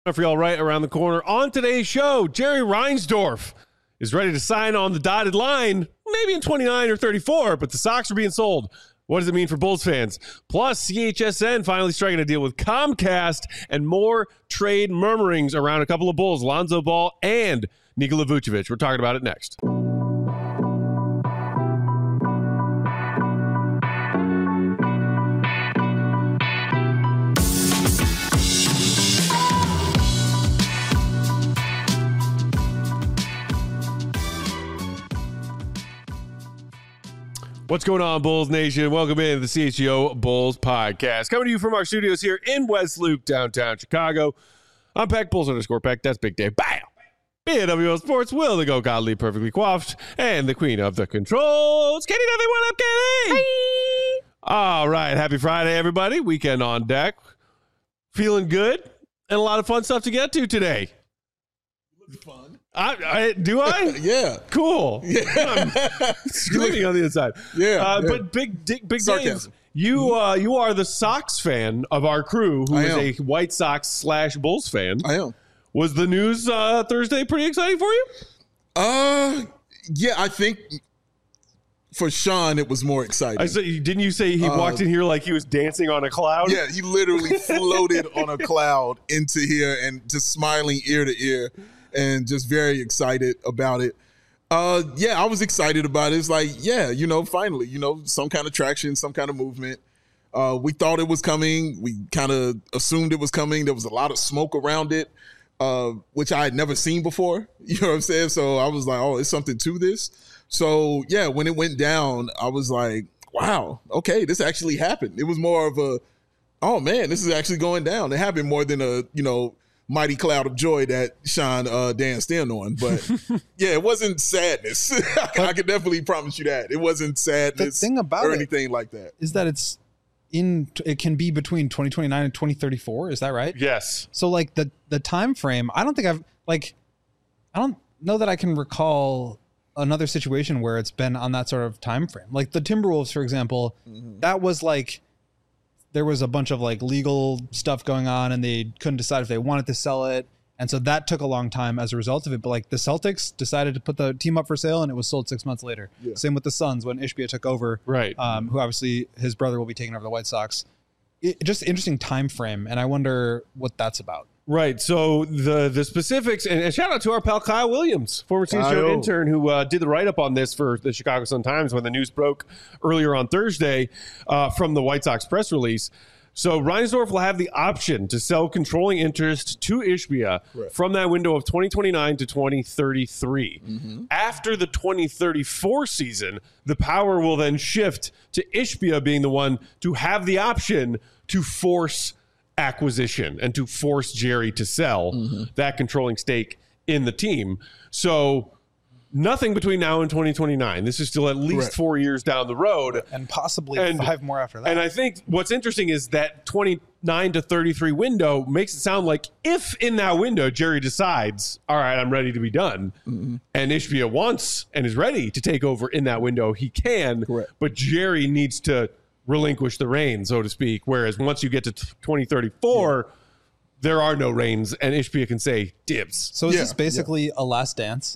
For y'all right around the corner. On today's show, Jerry Reinsdorf is ready to sign on the dotted line, maybe in 29 or 34, but the Sox are being sold. What does it mean for Bulls fans? Plus, CHSN finally striking a deal with Comcast, and more trade murmurings around a couple of Bulls, Lonzo Ball and Nikola Vucevic. We're talking about it next. What's going on, Bulls Nation? Welcome in to the CHGO Bulls Podcast. Coming to you from our studios here in West Loop, downtown Chicago. I'm Peck, Bulls_Peck. That's Big Dave. Bam! BWO Sports, Will the Go Godly, perfectly coiffed, and the queen of the controls. Katie Duffy, what up, Katie? Hi! All right, happy Friday, everybody. Weekend on deck. Feeling good, and a lot of fun stuff to get to today. Fun. Do I? Yeah. Cool. Yeah. I'm screaming on the inside. Yeah. But Big Dave, you are the Sox fan of our crew, who is a White Sox / Bulls fan. I am. Was the news Thursday pretty exciting for you? Yeah, I think for Sean it was more exciting. Didn't you say he walked in here like he was dancing on a cloud? Yeah, he literally floated on a cloud into here and just smiling ear to ear. And just very excited about it. Yeah, I was excited about it. It's like, yeah, finally, some kind of traction, some kind of movement. We thought it was coming. We kind of assumed it was coming. There was a lot of smoke around it, which I had never seen before. You know what I'm saying? So I was like, oh, there's something to this. So, yeah, when it went down, I was like, wow, okay, this actually happened. It was more of a, oh, man, this is actually going down. It happened more than a, mighty cloud of joy that Sean danced in on. But yeah, it wasn't sadness. I can definitely promise you that. It wasn't sadness the thing about or anything like that. Is that it can be between 2029 and 2034. Is that right? Yes. So like the time frame, I don't know that I can recall another situation where it's been on that sort of time frame. Like the Timberwolves, for example, that was like, there was a bunch of like legal stuff going on and they couldn't decide if they wanted to sell it. And so that took a long time as a result of it. But like the Celtics decided to put the team up for sale and it was sold 6 months later. Yeah. Same with the Suns when Ishbia took over, right? Who obviously his brother will be taking over the White Sox. Just interesting time frame. And I wonder what that's about. Right. So the specifics, and shout out to our pal Kyle Williams, former CHGO intern, who did the write-up on this for the Chicago Sun-Times when the news broke earlier on Thursday from the White Sox press release. So Reinsdorf will have the option to sell controlling interest to Ishbia from that window of 2029 to 2033. After the 2034 season, the power will then shift to Ishbia being the one to have the option to force acquisition and to force Jerry to sell that controlling stake in the team. So nothing between now and 2029. This is still at least 4 years down the road. And possibly 5 more after that. And I think what's interesting is that 29 to 33 window makes it sound like if in that window Jerry decides, all right, I'm ready to be done, and Ishbia wants and is ready to take over in that window, he can. But Jerry needs to relinquish the reins, so to speak. Whereas once you get to 2034, there are no reins, and Ishbia can say dibs. So is this basically a last dance?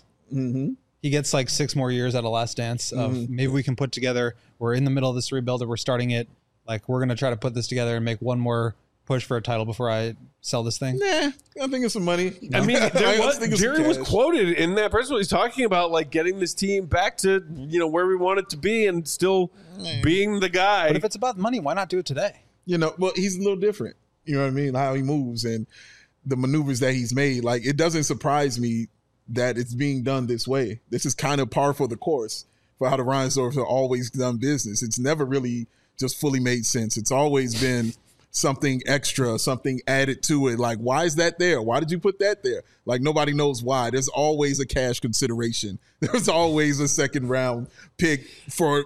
He gets like 6 more years at a last dance of maybe we can put together, we're in the middle of this rebuild and we're starting it, like we're going to try to put this together and make one more push for a title before I sell this thing. Nah, I think it's some money. I mean, Jerry was quoted in that press release talking about like getting this team back to, where we want it to be and still being the guy. But if it's about money, why not do it today? Well, he's a little different. You know what I mean? How he moves and the maneuvers that he's made. Like, it doesn't surprise me that it's being done this way. This is kind of par for the course for how the Reinsdorfs have always done business. It's never really just fully made sense. It's always been something extra, something added to it. Like, why is that there? Why did you put that there? Like, nobody knows why. There's always a cash consideration. There's always a second round pick for,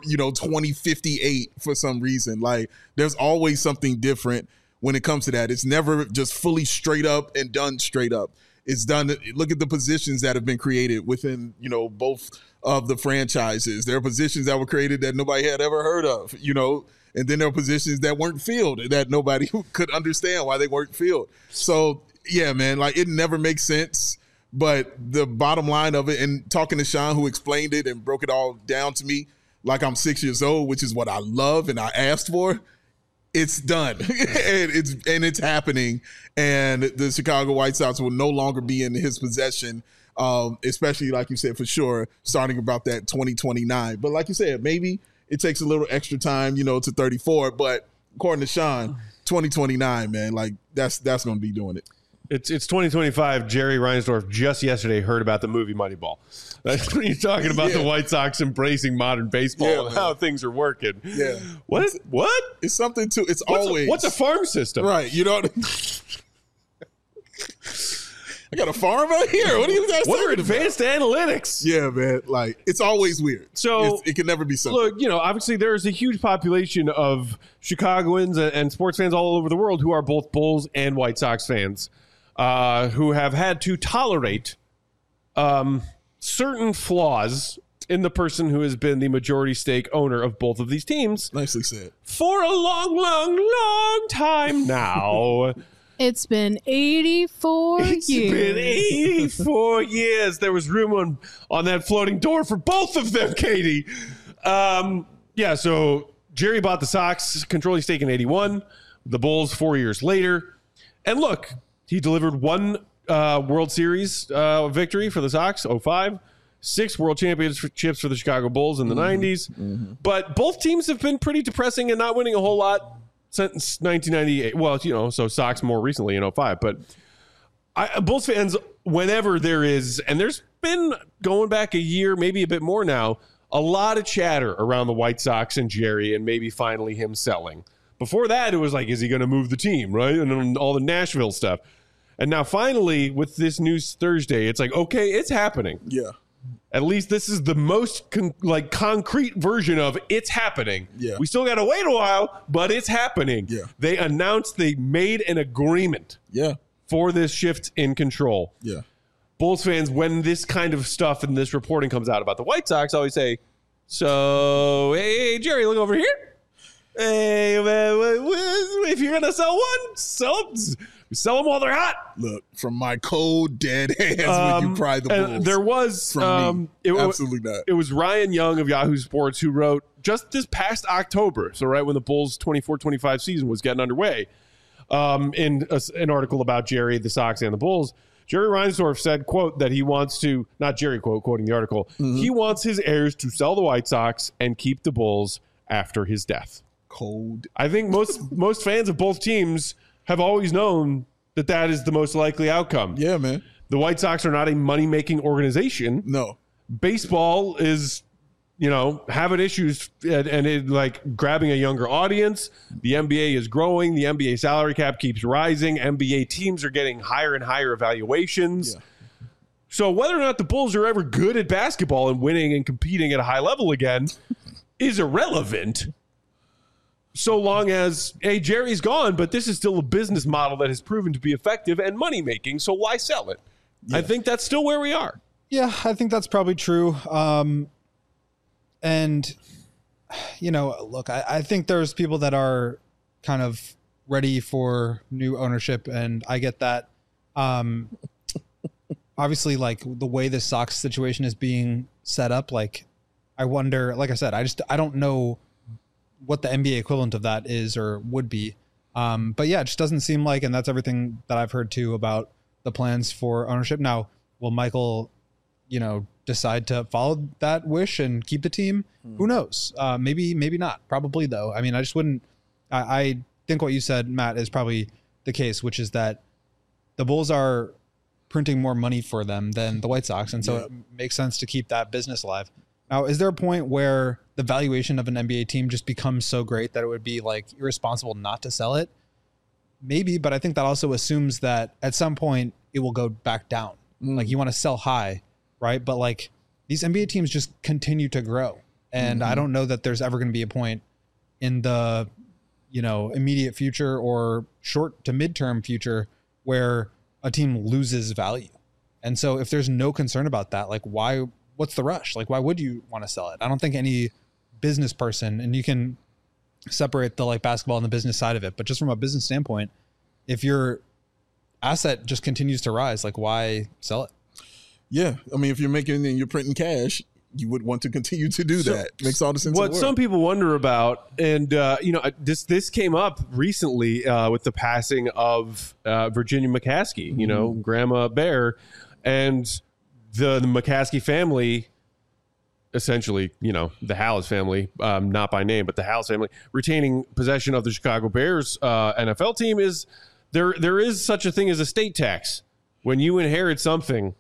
2058 for some reason. Like, there's always something different when it comes to that. It's never just fully straight up and done straight up. It's done. Look at the positions that have been created within, both of the franchises. There are positions that were created that nobody had ever heard of, and then there are positions that weren't filled that nobody could understand why they weren't filled. So Yeah, man. Like, it never makes sense. But the bottom line of it, and talking to Sean, who explained it and broke it all down to me like I'm 6 years old, which is what I love and I asked for, it's done. and it's happening. And the Chicago White Sox will no longer be in his possession, especially, like you said, for sure, starting about that 2029. But like you said, maybe it takes a little extra time, to 34. But according to Sean, 2029, man, like that's going to be doing it. It's 2025. Jerry Reinsdorf just yesterday heard about the movie Moneyball. That's when you're talking about the White Sox embracing modern baseball and how things are working. Yeah. What? It's something to. What's a farm system? Right. You know. I got a farm out here. What are you guys What are talking advanced analytics? Yeah, man. Like, it's always weird. So it can never be something. Look, obviously there's a huge population of Chicagoans and sports fans all over the world who are both Bulls and White Sox fans, who have had to tolerate certain flaws in the person who has been the majority stake owner of both of these teams. Nicely said. For a long, long, long time now. It's been 84 years. It's been 84 years. There was room on that floating door for both of them, Katie. So Jerry bought the Sox, controlling stake in 81, the Bulls 4 years later. And look, he delivered one World Series victory for the Sox, 05, 6 World Championships for the Chicago Bulls in the 90s. Mm-hmm. But both teams have been pretty depressing and not winning a whole lot since 1998. Well, so Sox more recently in 05. But Bulls fans, whenever there is, and there's been going back a year, maybe a bit more now, a lot of chatter around the White Sox and Jerry and maybe finally him selling. Before that, it was like, is he going to move the team, right? And then all the Nashville stuff. And now finally, with this news Thursday, it's like, okay, it's happening. Yeah. At least this is the most concrete version of it's happening. Yeah. We still got to wait a while, but it's happening. Yeah. They announced they made an agreement for this shift in control. Yeah. Bulls fans, when this kind of stuff and this reporting comes out about the White Sox, always say, so, hey, Jerry, look over here. Hey, if you're going to sell one, sell them while they're hot. Look, from my cold, dead hands when you pry the Bulls. There was absolutely not. It was Ryan Young of Yahoo Sports who wrote just this past October, so right when the Bulls 24-25 season was getting underway, in an article about Jerry, the Sox, and the Bulls. Jerry Reinsdorf said, quote, that he wants to, not Jerry, quote, quoting the article, he wants his heirs to sell the White Sox and keep the Bulls after his death. Cold. I think most fans of both teams have always known that is the most likely outcome. Yeah, man. The White Sox are not a money-making organization. No. Baseball is, having issues and it, like grabbing a younger audience. The NBA is growing. The NBA salary cap keeps rising. NBA teams are getting higher and higher evaluations. Yeah. So whether or not the Bulls are ever good at basketball and winning and competing at a high level again is irrelevant. So long as, hey, Jerry's gone, but this is still a business model that has proven to be effective and money-making, so why sell it? Yeah. I think that's still where we are. Yeah, I think that's probably true. And, look, I think there's people that are kind of ready for new ownership, and I get that. Obviously, like, the way the Sox situation is being set up, like, I wonder, like I said, I don't know what the NBA equivalent of that is or would be. But yeah, it just doesn't seem like, and that's everything that I've heard too about the plans for ownership. Now, will Michael, decide to follow that wish and keep the team? Who knows? Maybe not. Probably though. I mean, I just wouldn't, I think what you said, Matt, is probably the case, which is that the Bulls are printing more money for them than the White Sox. And so it makes sense to keep that business alive. Now, is there a point where the valuation of an NBA team just becomes so great that it would be like irresponsible not to sell it? Maybe, but I think that also assumes that at some point it will go back down. Like, you want to sell high, right? But like, these NBA teams just continue to grow. And I don't know that there's ever going to be a point in the, immediate future or short to midterm future where a team loses value. And so if there's no concern about that, like, what's the rush? Like, why would you want to sell it? I don't think any business person, and you can separate the like basketball and the business side of it, but just from a business standpoint, if you're asset just continues to rise. Like, why sell it? Yeah. I mean, if you're making and you're printing cash, you would want to continue to do that. Makes all the sense in the What world. some people wonder about, and this came up recently with the passing of Virginia McCaskey, Grandma Bear, and the McCaskey family, essentially, the Hallis family, not by name, but the Hallis family, retaining possession of the Chicago Bears NFL team. Is there is such a thing as estate tax when you inherit something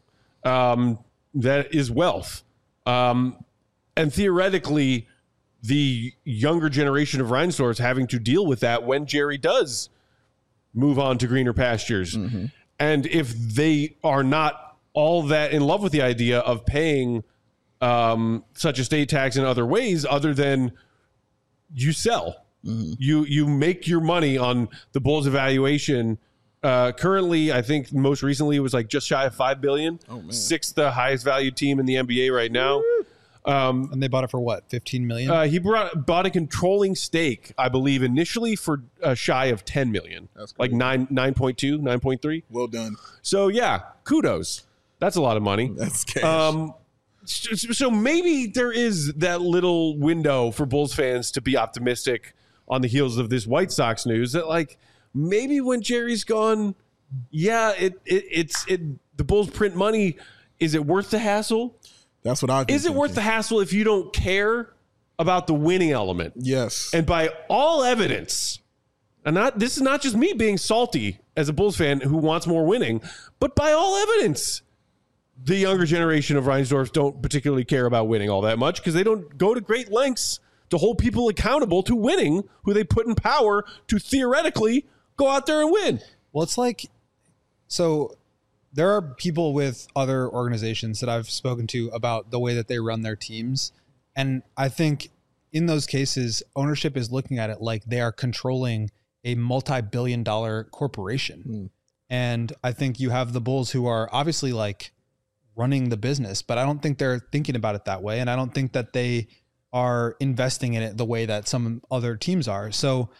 that is wealth. And theoretically, the younger generation of Reinsdorfs having to deal with that when Jerry does move on to greener pastures. Mm-hmm. And if they are not all that in love with the idea of paying such estate tax in other ways, other than you sell, you make your money on the Bulls' evaluation. Currently, I think most recently it was like just shy of $5 billion. Oh, man. Sixth highest valued team in the NBA right now. And they bought it for what, $15 million? He bought a controlling stake, I believe, initially for shy of $10 million. That's like 9.2, 9.3. Well done. So yeah, kudos. That's a lot of money. That's cash. So maybe there is that little window for Bulls fans to be optimistic on the heels of this White Sox news that, like, maybe when Jerry's gone, yeah, the Bulls print money. Is it worth the hassle? That's what Is it worth the hassle if you don't care about the winning element? Yes. And by all evidence, this is not just me being salty as a Bulls fan who wants more winning, but by all evidence, the younger generation of Reinsdorfs don't particularly care about winning all that much because they don't go to great lengths to hold people accountable to winning, who they put in power to theoretically go out there and win. Well, it's like, so there are people with other organizations that I've spoken to about the way that they run their teams. And I think in those cases, ownership is looking at it like they are controlling a multi-billion-dollar corporation. And I think you have the Bulls who are obviously like running the business, but I don't think they're thinking about it that way. And I don't think that they are investing in it the way that some other teams are. So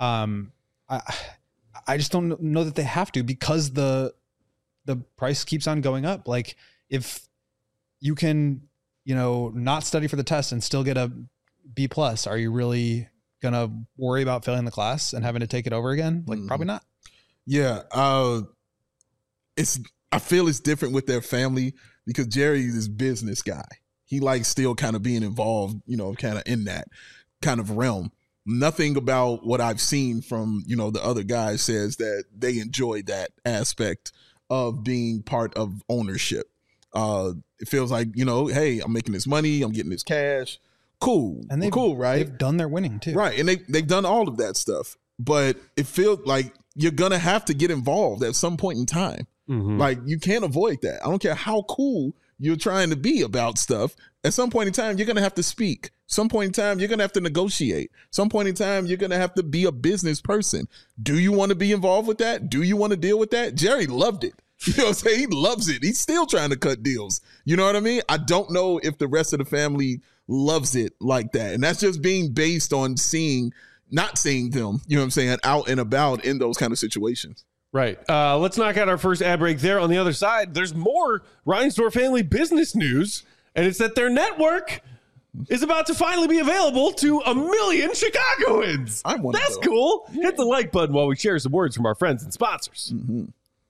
I just don't know that they have to, because the price keeps on going up. Like, if you can, not study for the test and still get a B+, are you really going to worry about failing the class and having to take it over again? Like, probably not. Yeah. I feel it's different with their family because Jerry is this business guy. He likes still kind of being involved, kind of in that kind of realm. Nothing about what I've seen from, the other guys says that they enjoy that aspect of being part of ownership. It feels like, hey, I'm making this money, I'm getting this cash. Cool. And they've cool, right? They've done their winning too. Right. And they've done all of that stuff. But it feels like you're going to have to get involved at some point in time. Mm-hmm. Like, you can't avoid that. I don't care how cool you're trying to be about stuff. At some point in time, you're going to have to speak. Some point in time, you're going to have to negotiate. Some point in time, you're going to have to be a business person. Do you want to be involved with that? Do you want to deal with that? Jerry loved it. You know what I'm saying? He loves it. He's still trying to cut deals. You know what I mean? I don't know if the rest of the family loves it like that. And that's just being based on not seeing them, you know what I'm saying, out and about in those kind of situations. Right. Let's knock out our first ad break there. On the other side, there's more Reinsdorf family business news, and it's that their network is about to finally be available to 1 million Chicagoans. That's cool. Yeah. Hit the like button while we share some words from our friends and sponsors. Mm-hmm.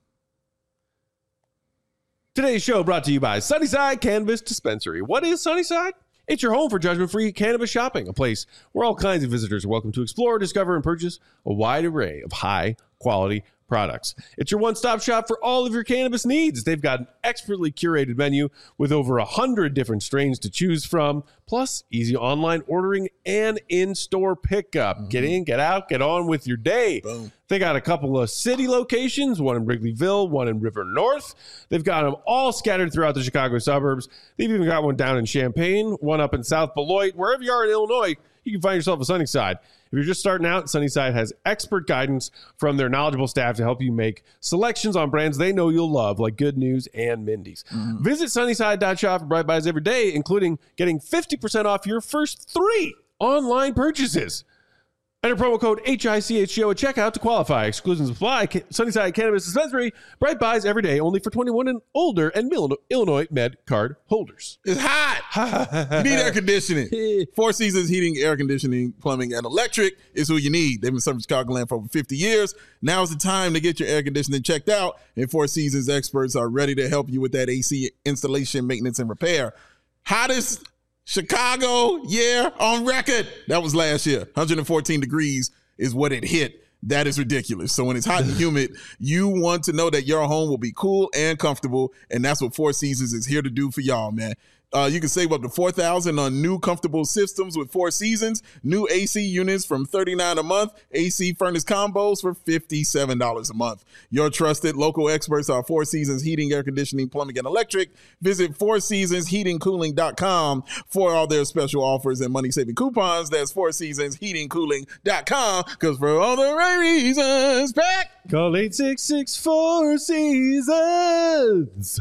Today's show brought to you by Sunnyside Cannabis Dispensary. What is Sunnyside? It's your home for judgment-free cannabis shopping, a place where all kinds of visitors are welcome to explore, discover, and purchase a wide array of high-quality products. It's your one-stop shop for all of your cannabis needs. They've got an expertly curated menu with over 100 different strains to choose from, plus easy online ordering and in-store pickup. Mm-hmm. Get in, get out, get on with your day. Boom. They got a couple of city locations, one in Wrigleyville, one in River North. They've got them all scattered throughout the Chicago suburbs. They've even got one down in Champaign, one up in South Beloit. Wherever you are in Illinois, you can find yourself a Sunnyside. If you're just starting out, Sunnyside has expert guidance from their knowledgeable staff to help you make selections on brands they know you'll love, like Good News and Mindy's. Mm-hmm. Visit Sunnyside.shop for Bright Buys every day, including getting 50% off your first 3 online purchases. Enter promo code HICHGO at checkout to qualify. Exclusions apply. Sunnyside Cannabis Dispensary. Bright buys every day, only for 21 and older and Illinois Med card holders. It's hot. You need air conditioning. Four Seasons Heating, Air Conditioning, Plumbing, and Electric is who you need. They've been serving Chicagoland for over 50 years. Now's the time to get your air conditioning checked out, and Four Seasons experts are ready to help you with that AC installation, maintenance, and repair. Hottest Chicago year on record. That was last year. 114 degrees is what it hit. That is ridiculous. So when it's hot and humid, you want to know that your home will be cool and comfortable, and that's what Four Seasons is here to do for y'all, man. You can save up to $4,000 on new comfortable systems with Four Seasons. New AC units from $39 a month. AC furnace combos for $57 a month. Your trusted local experts are Four Seasons Heating, Air Conditioning, Plumbing, and Electric. Visit fourseasonsheatingcooling.com for all their special offers and money-saving coupons. That's fourseasonsheatingcooling.com, because for all the right reasons, back. Call 866 Four Seasons.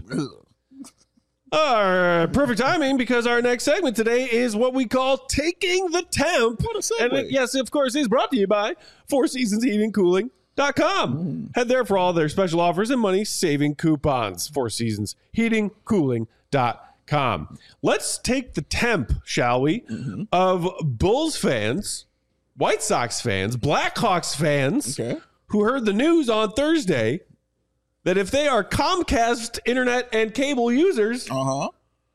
Perfect timing, because our next segment today is what we call Taking the Temp. What a segue. And it, yes, of course, is brought to you by Four Seasons Heating Cooling.com. Head there for all their special offers and money-saving coupons. Four Seasons Heating Cooling.com. Let's take the temp, shall we, of Bulls fans, White Sox fans, Blackhawks fans, who heard the news on Thursday that if they are Comcast internet and cable users, our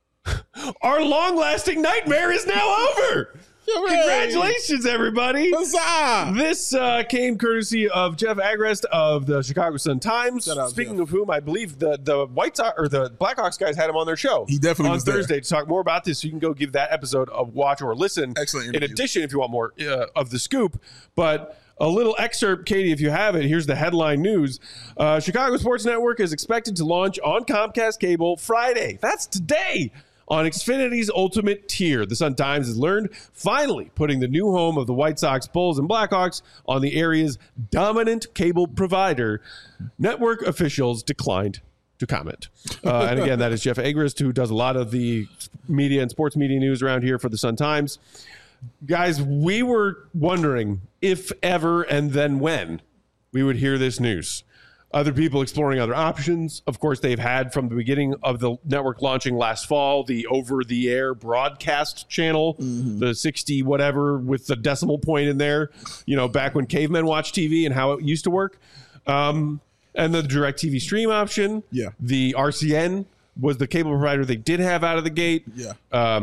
long-lasting nightmare is now over. Congratulations, everybody. Huzzah! This came courtesy of Jeff Agrest of the Chicago Sun-Times. Speaking Jeff. of whom, I believe the White Sox or the Blackhawks guys had him on their show. He definitely on was Thursday there. to talk more about this. So you can go give that episode a watch or listen. Excellent In interview. addition, if you want more of the scoop, but a little excerpt, Katie, if you have it. Here's the headline news. Chicago Sports Network is expected to launch on Comcast Cable Friday. That's today. On Xfinity's Ultimate tier. The Sun-Times has learned, finally putting the new home of the White Sox, Bulls, and Blackhawks on the area's dominant cable provider. Network officials declined to comment. And again, that is Jeff Agrest, who does a lot of the media and sports media news around here for the Sun-Times. Guys, we were wondering if ever and then when we would hear this news. Other people exploring other options. Of course, they've had from the beginning of the network launching last fall, the over-the-air broadcast channel, the 60 whatever with the decimal point in there, you know, back when cavemen watched TV and how it used to work. And the DirecTV stream option. Yeah. The RCN was the cable provider they did have out of the gate. Yeah.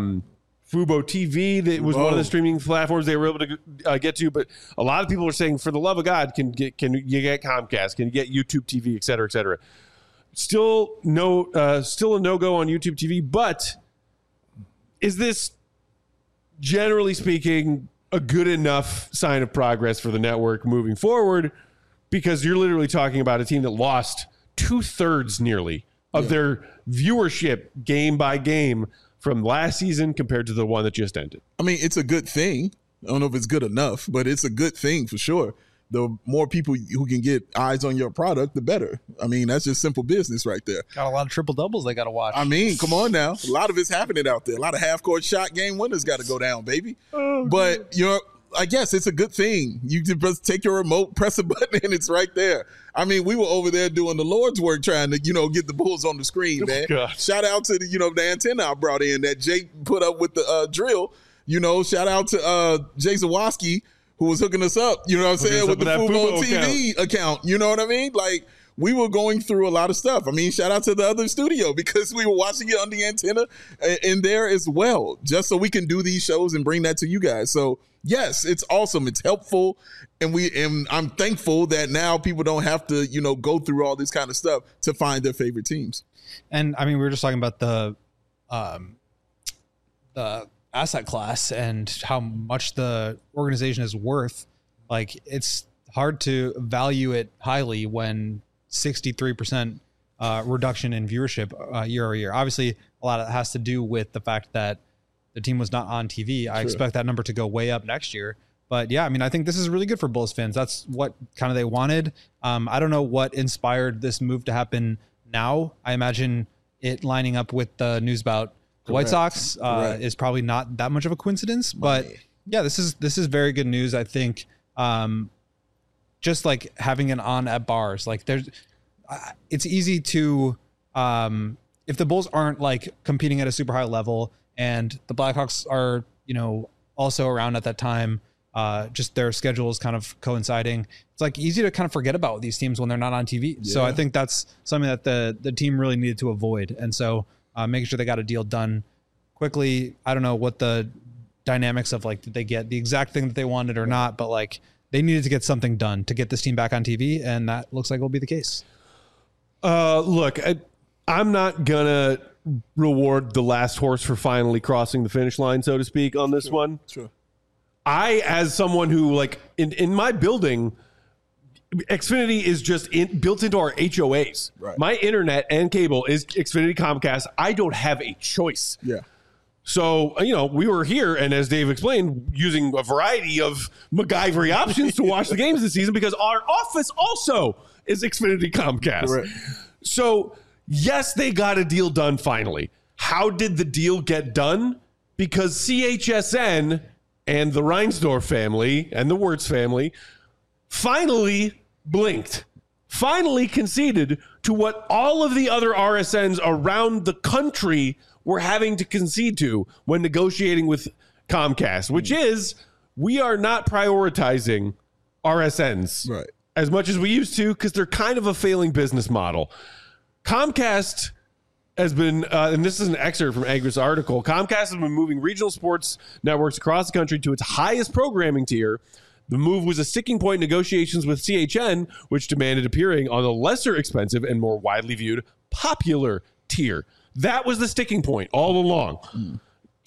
Fubo TV, that was one of the streaming platforms they were able to get to, but a lot of people are saying, for the love of God, can you get Comcast? Can you get YouTube TV, et cetera, et cetera? Still a no-go on YouTube TV, but is this, generally speaking, a good enough sign of progress for the network moving forward? Because you're literally talking about a team that lost 2/3 nearly of their viewership game by game from last season compared to the one that just ended. I mean, it's a good thing. I don't know if it's good enough, but it's a good thing for sure. The more people who can get eyes on your product, the better. I mean, that's just simple business right there. Got a lot of triple doubles they got to watch. I mean, come on now. A lot of it's happening out there. A lot of half-court shot game winners got to go down, baby. But, you know, I guess it's a good thing. You just take your remote, press a button, and it's right there. I mean, we were over there doing the Lord's work trying to, you know, get the Bulls on the screen, man. God. Shout out to the antenna I brought in that Jake put up with the drill. You know, shout out to Jay Zawoski, who was hooking us up, you know what I'm saying, with the Fubo TV account. You know what I mean? Like, we were going through a lot of stuff. I mean, shout out to the other studio, because we were watching it on the antenna in there as well, just so we can do these shows and bring that to you guys. So, yes, it's awesome. It's helpful. And I'm thankful that now people don't have to, you know, go through all this kind of stuff to find their favorite teams. And I mean, we were just talking about the asset class and how much the organization is worth. Like, it's hard to value it highly when 63% reduction in viewership year over year. Obviously, a lot of it has to do with the fact that the team was not on TV. I expect that number to go way up next year. But yeah, I mean, I think this is really good for Bulls fans. That's what kind of they wanted. I don't know what inspired this move to happen now. I imagine it lining up with the news about the White Sox is probably not that much of a coincidence. But yeah, this is very good news. I think just like having it on at bars. Like it's easy to, if the Bulls aren't like competing at a super high level and the Blackhawks are, also around at that time, just their schedules kind of coinciding. It's like easy to kind of forget about these teams when they're not on TV. Yeah. So I think that's something that the team really needed to avoid. And so making sure they got a deal done quickly. I don't know what the dynamics of like, did they get the exact thing that they wanted or not, but like they needed to get something done to get this team back on TV. And that looks like will be the case. Look, I'm not gonna reward the last horse for finally crossing the finish line, so to speak, on this one. Sure. I, as someone who, like, in my building, Xfinity is just built into our HOAs. Right. My internet and cable is Xfinity Comcast. I don't have a choice. Yeah. So, we were here, and as Dave explained, using a variety of MacGyver options to watch the games this season because our office also is Xfinity Comcast. Correct. So, yes, they got a deal done finally. How did the deal get done? Because CHSN and the Reinsdorf family and the Wirtz family finally blinked, finally conceded to what all of the other RSNs around the country were having to concede to when negotiating with Comcast, which is we are not prioritizing RSNs right. as much as we used to because they're kind of a failing business model. Comcast has been, and this is an excerpt from Agris' article, Comcast has been moving regional sports networks across the country to its highest programming tier. The move was a sticking point in negotiations with CHN, which demanded appearing on the lesser expensive and more widely viewed popular tier. That was the sticking point all along.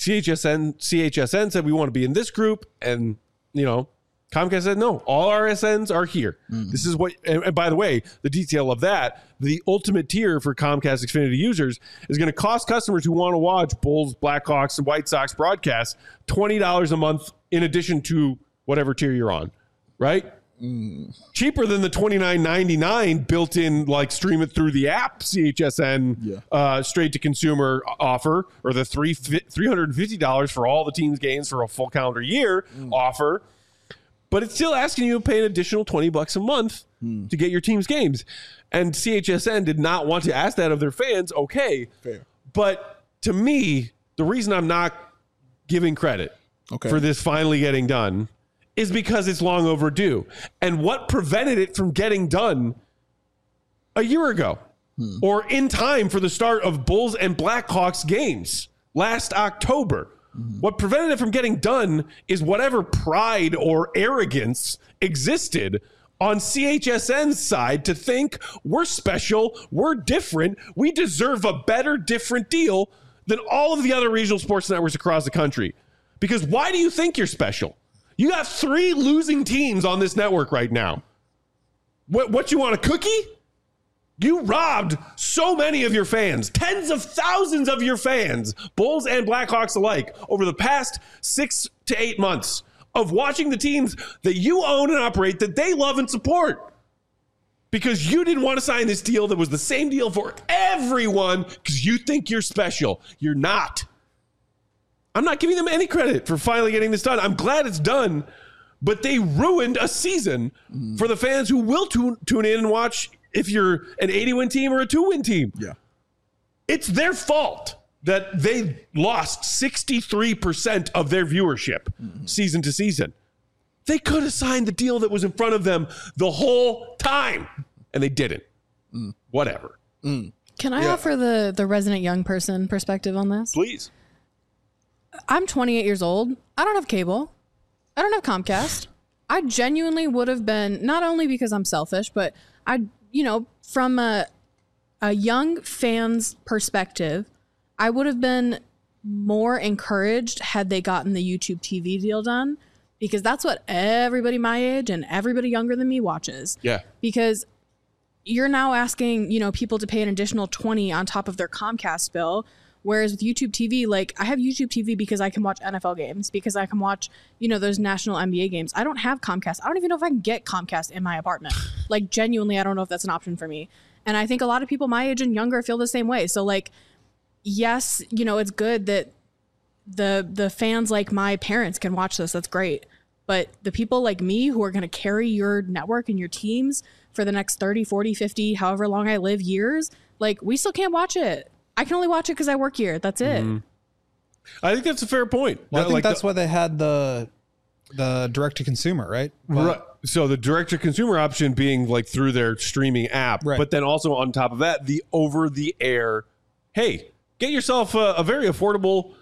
CHSN said we want to be in this group, and Comcast said no. All RSNs are here. This is what. And by the way, the detail of that, the ultimate tier for Comcast Xfinity users is going to cost customers who want to watch Bulls, Blackhawks, and White Sox broadcasts $20 a month in addition to whatever tier you're on, right? Cheaper than the $29.99 built-in, like stream it through the app CHSN straight to consumer offer, or the $350 for all the team's games for a full calendar year offer. But it's still asking you to pay an additional $20 a month to get your team's games. And CHSN did not want to ask that of their fans. Okay. Fair. But to me, the reason I'm not giving credit for this finally getting done is because it's long overdue. And what prevented it from getting done a year ago or in time for the start of Bulls and Blackhawks games last October? What prevented it from getting done is whatever pride or arrogance existed on CHSN's side to think we're special, we're different, we deserve a better, different deal than all of the other regional sports networks across the country. Because why do you think you're special? You got 3 losing teams on this network right now. What you want, a cookie? You robbed so many of your fans, tens of thousands of your fans, Bulls and Blackhawks alike, over the past 6 to 8 months of watching the teams that you own and operate that they love and support. Because you didn't want to sign this deal that was the same deal for everyone because you think you're special. You're not. I'm not giving them any credit for finally getting this done. I'm glad it's done, but they ruined a season for the fans who will tune in and watch if you're an 80-win team or a 2-win team. Yeah. It's their fault that they lost 63% of their viewership season to season. They could have signed the deal that was in front of them the whole time, and they didn't. Whatever. Can I offer the resident young person perspective on this? Please. I'm 28 years old. I don't have cable. I don't have Comcast. I genuinely would have been, not only because I'm selfish, but from a young fan's perspective, I would have been more encouraged had they gotten the YouTube TV deal done, because that's what everybody my age and everybody younger than me watches. Yeah. Because you're now asking, people to pay an additional $20 on top of their Comcast bill. Whereas with YouTube TV, like I have YouTube TV because I can watch NFL games, because I can watch, those national NBA games. I don't have Comcast. I don't even know if I can get Comcast in my apartment. Like genuinely, I don't know if that's an option for me. And I think a lot of people my age and younger feel the same way. So like, yes, it's good that the fans like my parents can watch this. That's great. But the people like me who are going to carry your network and your teams for the next 30, 40, 50, however long I live, years, like, we still can't watch it. I can only watch it because I work here. That's it. I think that's a fair point. Well, I think that's why they had the direct to consumer, right? Right. So the direct to consumer option being like through their streaming app, right. But then also on top of that, the over the air, hey, get yourself a very affordable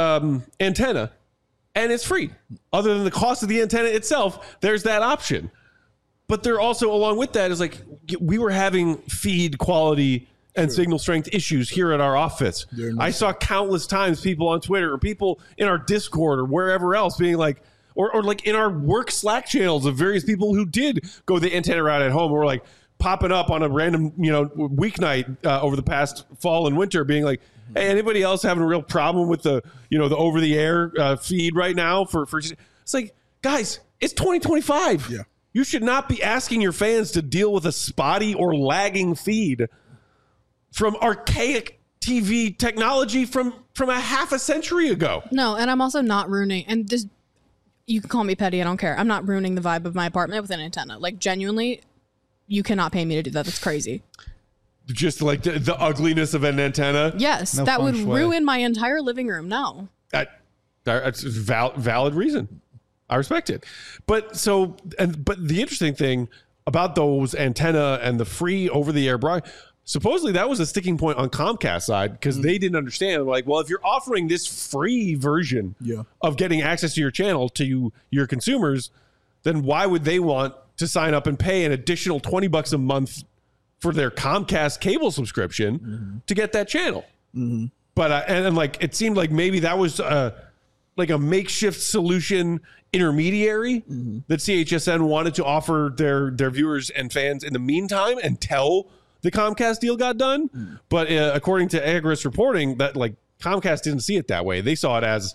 antenna and it's free. Other than the cost of the antenna itself, there's that option. But they're also, along with that, is like, we were having feed quality and signal strength issues here at our office. I saw countless times people on Twitter or people in our Discord or wherever else being like, or like in our work Slack channels of various people who did go the antenna route at home, or like popping up on a random, weeknight over the past fall and winter being like, hey, anybody else having a real problem with the over the air feed right now for it's like, guys, it's 2025. Yeah. You should not be asking your fans to deal with a spotty or lagging feed from archaic TV technology from a half a century ago. No, and I'm also not ruining, and this, you can call me petty, I don't care. I'm not ruining the vibe of my apartment with an antenna. Like, genuinely, you cannot pay me to do that. That's crazy. Just like the ugliness of an antenna? Yes, No that would feng shui. ruin my entire living room. No. That's a valid reason. I respect it. But the interesting thing about those antenna and the free over-the-air supposedly that was a sticking point on Comcast side because they didn't understand. Like, well, if you're offering this free version of getting access to your channel to your consumers, then why would they want to sign up and pay an additional $20 a month for their Comcast cable subscription to get that channel? But and like, it seemed like maybe that was like a makeshift solution intermediary that CHSN wanted to offer their viewers and fans in the meantime until the Comcast deal got done. But according to Agris reporting, that like Comcast didn't see it that way. They saw it as,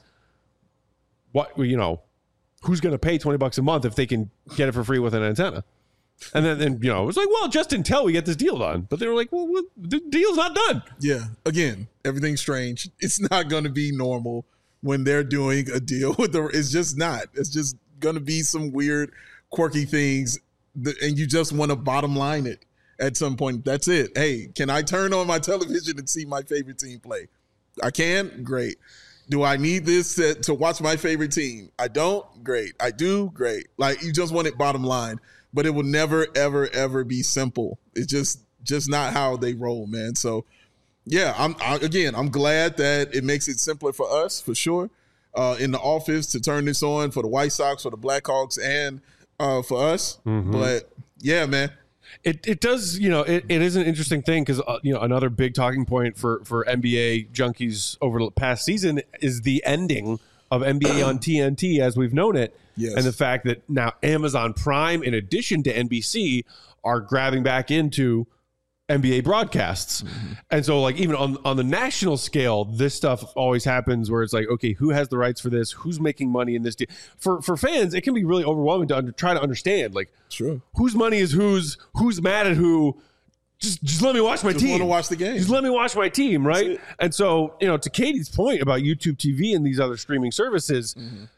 what, who's going to pay $20 a month if they can get it for free with an antenna? And then it was like, well, just until we get this deal done. But they were like, well, the deal's not done. Yeah. Again, everything's strange. It's not going to be normal when they're doing a deal with it's just not. It's just going to be some weird, quirky things. And you just want to bottom line it at some point. That's it. Hey, can I turn on my television and see my favorite team play? I can? Great. Do I need this to watch my favorite team? I don't? Great. I do? Great. Like, you just want it bottom line. But it will never, ever, ever be simple. It's just not how they roll, man. So, yeah, I'm glad that it makes it simpler for us, for sure, in the office to turn this on for the White Sox, for the Blackhawks, and for us. But, yeah, man. It does, it is an interesting thing because, another big talking point for NBA junkies over the past season is the ending of NBA on TNT as we've known it. Yes. And the fact that now Amazon Prime, in addition to NBC, are grabbing back into NBA broadcasts. And so, like, even on the national scale, this stuff always happens where it's like, okay, who has the rights for this? Who's making money in this deal? For fans, it can be really overwhelming to try to understand, like, whose money is who's mad at who. Just let me watch my team. Just want to watch the game. Just let me watch my team, right? And so, to Katie's point about YouTube TV and these other streaming services,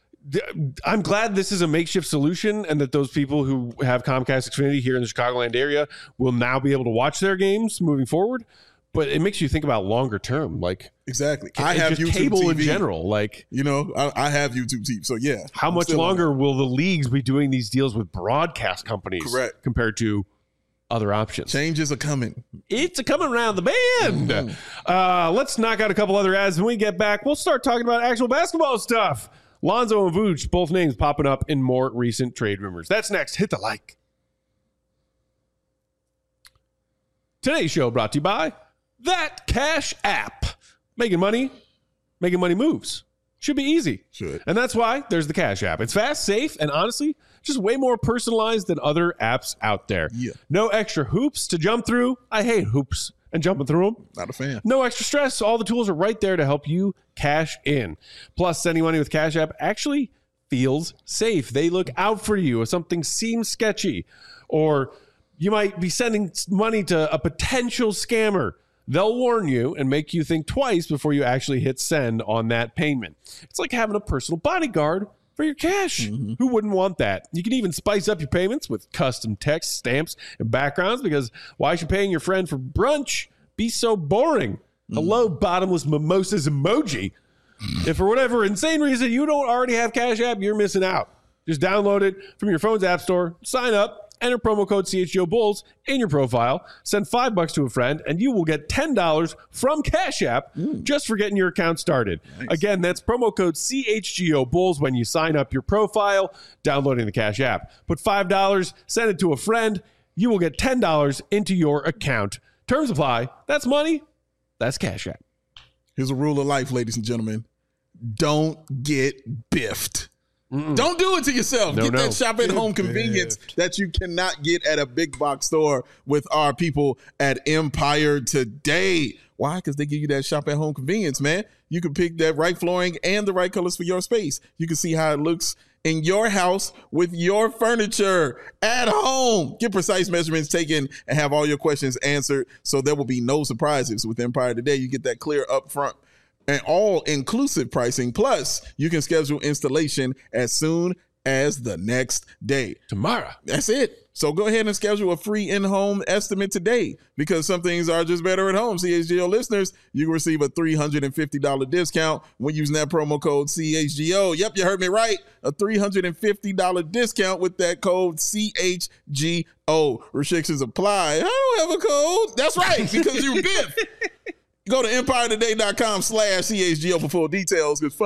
I'm glad this is a makeshift solution and that those people who have Comcast Xfinity here in the Chicagoland area will now be able to watch their games moving forward. But it makes you think about longer term, like, exactly. I have just YouTube cable TV in general, like, I have YouTube TV, so yeah. How much longer will the leagues be doing these deals with broadcast companies? Correct. Compared to other options? Changes are coming. It's a coming around the bend. Let's knock out a couple other ads. When we get back, we'll start talking about actual basketball stuff. Lonzo and Vooch, both names popping up in more recent trade rumors. That's next. Hit the like. Today's show brought to you by That Cash App. Making money moves. Should be easy. Should. And that's why there's the Cash App. It's fast, safe, and honestly, just way more personalized than other apps out there. Yeah. No extra hoops to jump through. I hate hoops and jumping through them. Not a fan. No extra stress. All the tools are right there to help you cash in. Plus, sending money with Cash App actually feels safe. They look out for you if something seems sketchy, or you might be sending money to a potential scammer. They'll warn you and make you think twice before you actually hit send on that payment. It's like having a personal bodyguard for your cash. Who wouldn't want that? You can even spice up your payments with custom text, stamps, and backgrounds, because why should paying your friend for brunch be so boring? Hello, bottomless mimosas emoji. If for whatever insane reason you don't already have Cash App, you're missing out. Just download it from your phone's app store, sign up, enter promo code CHGO Bulls in your profile, send $5 to a friend, and you will get $10 from Cash App just for getting your account started. Nice. Again, that's promo code CHGO Bulls when you sign up your profile, downloading the Cash App. Put $5, send it to a friend, you will get $10 into your account. Terms apply. That's money. That's Cash App. Here's a rule of life, ladies and gentlemen. Don't get biffed. Don't do it to yourself. Get that shop at home convenience that you cannot get at a big box store with our people at Empire Today. Why? Because they give you that shop at home convenience, man. You can pick that right flooring and the right colors for your space. You can see how it looks in your house with your furniture at home. Get precise measurements taken and have all your questions answered, so there will be no surprises. With Empire Today, you get that clear upfront and all-inclusive pricing. Plus, you can schedule installation as soon as the next day. Tomorrow. That's it. So go ahead and schedule a free in-home estimate today, because some things are just better at home. CHGO listeners, you can receive a $350 discount when using that promo code CHGO. Yep, you heard me right. A $350 discount with that code CHGO. Restrictions apply. I don't have a code. That's right, because you're Biff. Go to EmpireToday.com/CHGO for full details. It's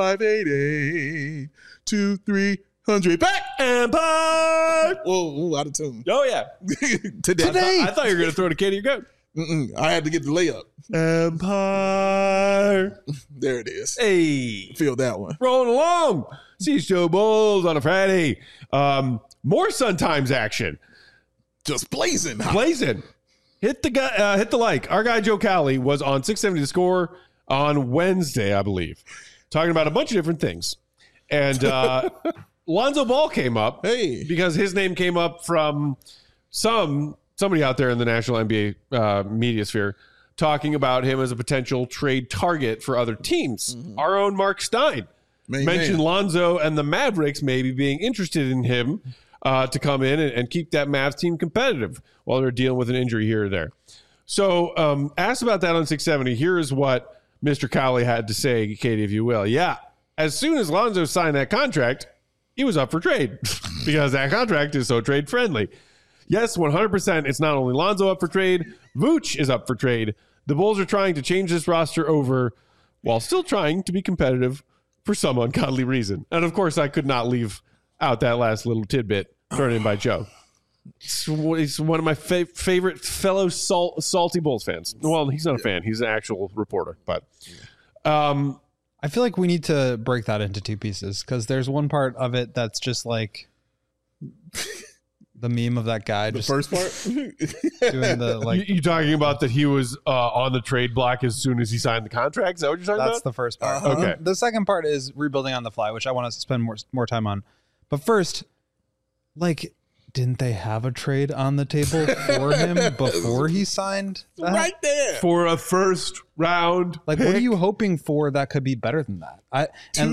588-2300. Back Empire. Whoa, out of tune. Oh, yeah. Today. I thought you were going to throw the kid to your goat. I had to get the layup. Empire. There it is. Hey. Feel that one. Rolling along. CHGO Bulls on a Friday. More Sun Times action. Just blazing. Blazing. Hit the like. Our guy Joe Cowley was on 670 The Score on Wednesday, I believe, talking about a bunch of different things. And Lonzo Ball came up because his name came up from somebody out there in the national NBA media sphere talking about him as a potential trade target for other teams. Our own Mark Stein mentioned Lonzo and the Mavericks maybe being interested in him to come in and keep that Mavs team competitive while they're dealing with an injury here or there. So asked about that on 670. Here is what Mr. Cowley had to say, Katie, if you will. Yeah, as soon as Lonzo signed that contract, he was up for trade because that contract is so trade friendly. Yes, 100%. It's not only Lonzo up for trade, Vooch is up for trade. The Bulls are trying to change this roster over while still trying to be competitive for some ungodly reason. And of course, I could not leave out that last little tidbit thrown in by Joe. He's one of my favorite fellow salty Bulls fans. Well, he's not a fan. He's an actual reporter. But I feel like we need to break that into two pieces, because there's one part of it that's just like the meme of that guy. The first part? Doing the, like, you talking about that he was on the trade block as soon as he signed the contract? Is that what you're talking about? That's the first part. Okay. The second part is rebuilding on the fly, which I want to spend more time on. But first, like, didn't they have a trade on the table for him before he signed that? Right there. For a first round Like, pick. what are you hoping for that could be better than that? I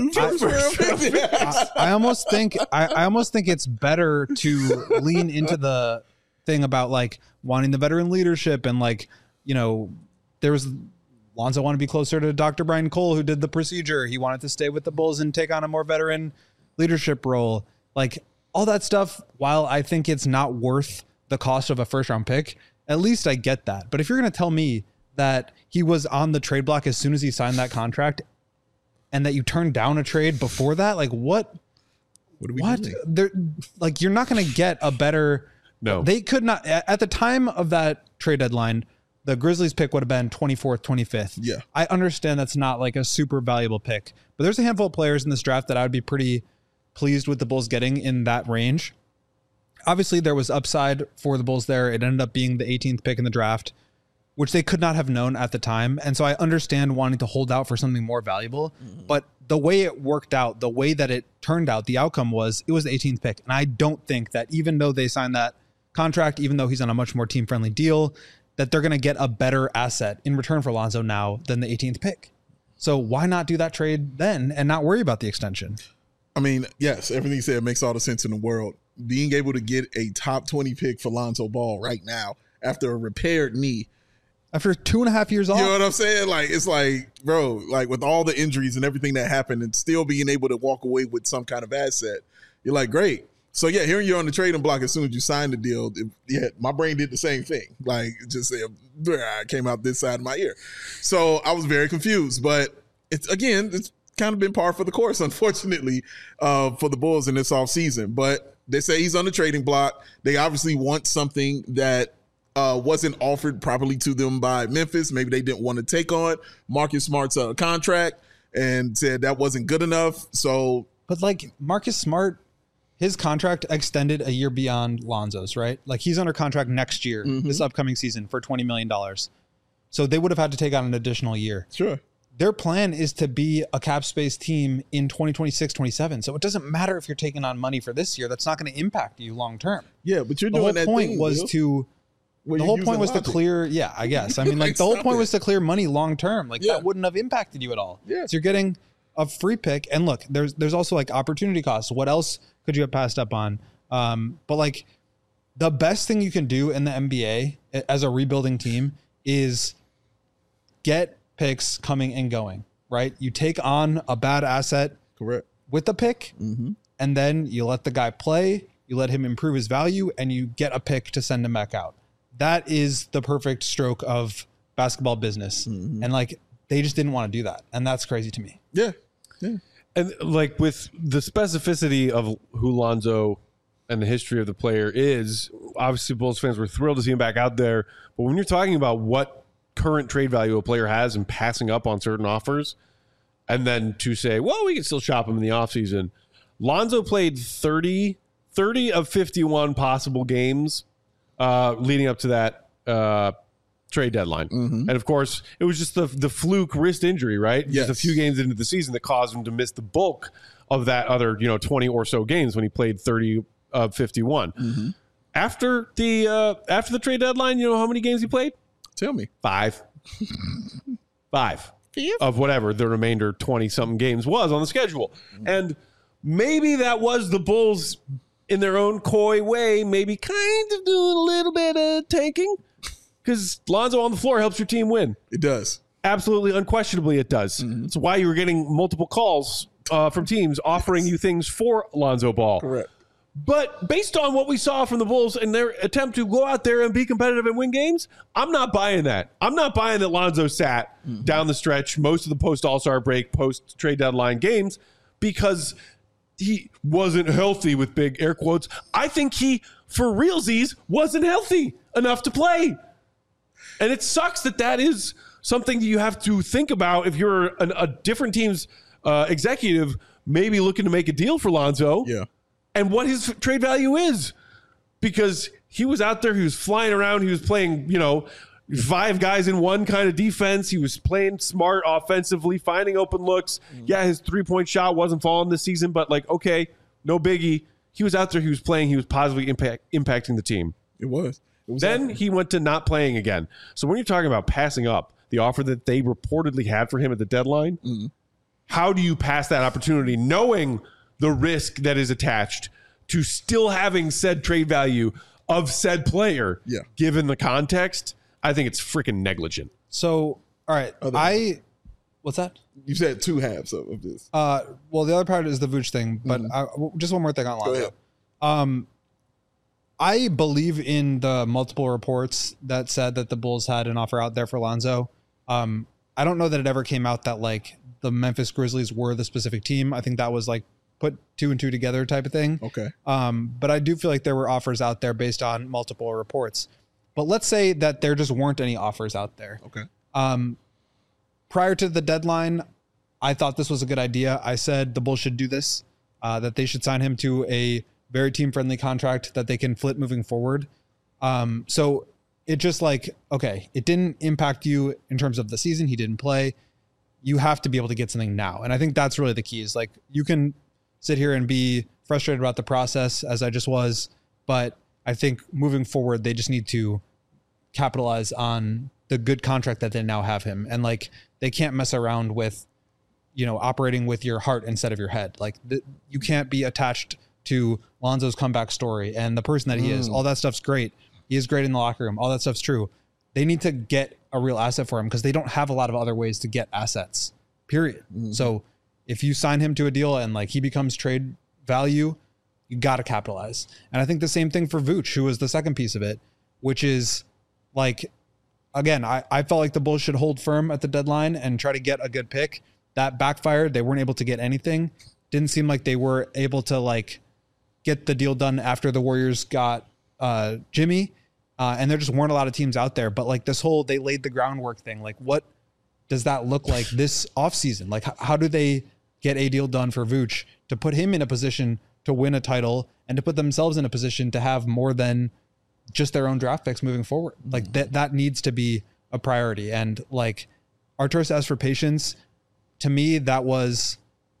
almost think it's better to lean into the thing about, like, wanting the veteran leadership, and, like, you know, there was Lonzo wanted to be closer to Dr. Brian Cole, who did the procedure. He wanted to stay with the Bulls and take on a more veteran leadership role. Like, all that stuff, while I think it's not worth the cost of a first round pick, at least I get that. But if you're going to tell me that he was on the trade block as soon as he signed that contract, and that you turned down a trade before that, like, what are we doing? They're, like, you're not going to get a better. No, they could not. At the time of that trade deadline, the Grizzlies pick would have been 24th, 25th. Yeah. I understand that's not like a super valuable pick, but there's a handful of players in this draft that I would be pretty pleased with the Bulls getting in that range. Obviously, there was upside for the Bulls there. It ended up being the 18th pick in the draft, which they could not have known at the time. And so I understand wanting to hold out for something more valuable. But the way it worked out, the way that it turned out, the outcome was it was the 18th pick. And I don't think that even though they signed that contract, even though he's on a much more team-friendly deal, that they're going to get a better asset in return for Lonzo now than the 18th pick. So why not do that trade then and not worry about the extension? I mean, yes, everything you said makes all the sense in the world. Being able to get a top 20 pick for Lonzo Ball right now after a repaired knee. After 2.5 years off. You know what I'm saying? Like, it's like, bro, like with all the injuries and everything that happened and still being able to walk away with some kind of asset, you're like, great. So, yeah, hearing you on the trading block as soon as you signed the deal, my brain did the same thing. Like, just said, I came out this side of my ear. So I was very confused. But, it's kind of been par for the course, unfortunately, for the Bulls in this offseason. But they say he's on the trading block. They obviously want something that wasn't offered properly to them by Memphis. Maybe they didn't want to take on Marcus Smart's contract and said that wasn't good enough. So, but like Marcus Smart, his contract extended a year beyond Lonzo's, right? Like he's under contract next year, this upcoming season for $20 million. So they would have had to take on an additional year. Sure. Their plan is to be a cap space team in 2026, 27. So it doesn't matter if you're taking on money for this year. That's not going to impact you long term. Yeah, but you're doing that thing. The whole point was to clear. Yeah, I guess. I mean, like the whole point was to clear money long term. Like that wouldn't have impacted you at all. Yeah. So you're getting a free pick. And look, there's also like opportunity costs. What else could you have passed up on? But like the best thing you can do in the NBA as a rebuilding team is get picks coming and going, right? You take on a bad asset correct with the pick, and then you let the guy play, you let him improve his value, and you get a pick to send him back out. That is the perfect stroke of basketball business. And like they just didn't want to do that. And that's crazy to me. Yeah. And like with the specificity of who Lonzo and the history of the player is, obviously Bulls fans were thrilled to see him back out there. But when you're talking about what current trade value a player has and passing up on certain offers, and then to say, well, we can still shop him in the offseason. Lonzo played 30 of 51 possible games leading up to that trade deadline. And of course, it was just the fluke wrist injury, right? Yes. Just a few games into the season that caused him to miss the bulk of that other, 20 or so games when he played 30 of 51. After the trade deadline, you know how many games he played? Tell me. 5 of whatever the remainder 20-something games was on the schedule. And maybe that was the Bulls in their own coy way, maybe kind of doing a little bit of tanking, because Lonzo on the floor helps your team win. It does. Absolutely, unquestionably it does. That's why you were getting multiple calls from teams offering you things for Lonzo Ball. Correct. But based on what we saw from the Bulls and their attempt to go out there and be competitive and win games, I'm not buying that. I'm not buying that Lonzo sat down the stretch most of the post-All-Star break, post-trade deadline games, because he wasn't healthy, with big air quotes. I think he, for realsies, wasn't healthy enough to play. And it sucks that is something that you have to think about if you're a different team's executive, maybe looking to make a deal for Lonzo. Yeah. And what his trade value is, because he was out there, he was flying around, he was playing, 5 guys in one kind of defense. He was playing smart offensively, finding open looks. Yeah, his 3-point shot wasn't falling this season, but okay, no biggie. He was out there, he was playing, he was positively impacting the team. It was. Then he went to not playing again. So when you're talking about passing up the offer that they reportedly had for him at the deadline, how do you pass that opportunity knowing the risk that is attached to still having said trade value of said player, given the context? I think it's freaking negligent. So, all right. What's that? You said 2 halves of this. Well, the other part is the Vooch thing, but just one more thing on Lonzo. I believe in the multiple reports that said that the Bulls had an offer out there for Lonzo. I don't know that it ever came out that the Memphis Grizzlies were the specific team. I think that was put 2 and 2 together type of thing. Okay. But I do feel like there were offers out there based on multiple reports. But let's say that there just weren't any offers out there. Okay. Prior to the deadline, I thought this was a good idea. I said the Bulls should do this, that they should sign him to a very team-friendly contract that they can flip moving forward. So it just okay, it didn't impact you in terms of the season. He didn't play. You have to be able to get something now. And I think that's really the key is you can sit here and be frustrated about the process as I just was, but I think moving forward, they just need to capitalize on the good contract that they now have him. And they can't mess around with operating with your heart instead of your head. Like you can't be attached to Lonzo's comeback story and the person that he is. All that stuff's great. He is great in the locker room. All that stuff's true. They need to get a real asset for him because they don't have a lot of other ways to get assets, period. So if you sign him to a deal and like he becomes trade value, you got to capitalize. And I think the same thing for Vooch, who was the second piece of it, which is like, again, I felt like the Bulls should hold firm at the deadline and try to get a good pick. That backfired. They weren't able to get anything. Didn't seem like they were able to like get the deal done after the Warriors got Jimmy. And there just weren't a lot of teams out there. But like this whole, they laid the groundwork thing. Like what does that look like this offseason? Like how do they get a deal done for Vooch to put him in a position to win a title and to put themselves in a position to have more than just their own draft picks moving forward? Like that needs to be a priority. And like Arturas asked for patience. To me, that was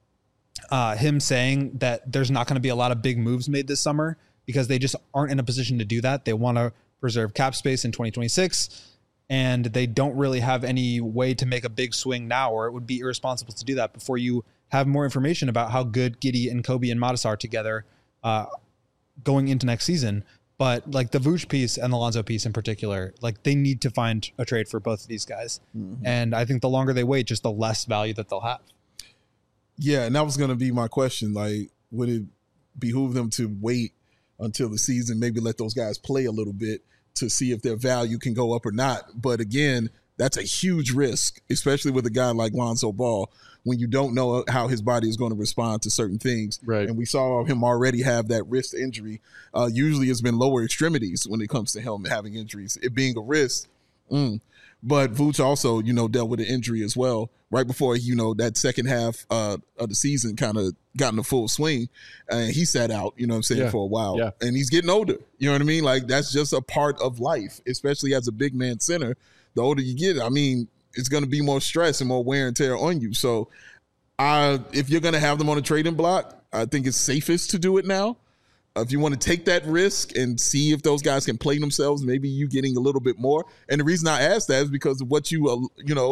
him saying that there's not going to be a lot of big moves made this summer because they just aren't in a position to do that. They want to preserve cap space in 2026, and they don't really have any way to make a big swing now, or it would be irresponsible to do that before you have more information about how good Giddey and Kobe and Matisse are together going into next season. But like the Vooch piece and the Lonzo piece in particular, like they need to find a trade for both of these guys. And I think the longer they wait, just the less value that they'll have. Yeah, and that was going to be my question. Like, would it behoove them to wait until the season, maybe let those guys play a little bit to see if their value can go up or not? But again, that's a huge risk, especially with a guy like Lonzo Ball, when you don't know how his body is going to respond to certain things. Right. And we saw him already have that wrist injury. Usually it's been lower extremities when it comes to him having injuries, it being a wrist. But Vooch also, dealt with an injury as well right before, that second half of the season kind of got in the full swing. And he sat out, for a while. Yeah. And he's getting older. You know what I mean? Like, that's just a part of life, especially as a big man center. The older you get, it's going to be more stress and more wear and tear on you. So if you're going to have them on a trading block, I think it's safest to do it now. If you want to take that risk and see if those guys can play themselves, maybe you getting a little bit more. And the reason I asked that is because of what you,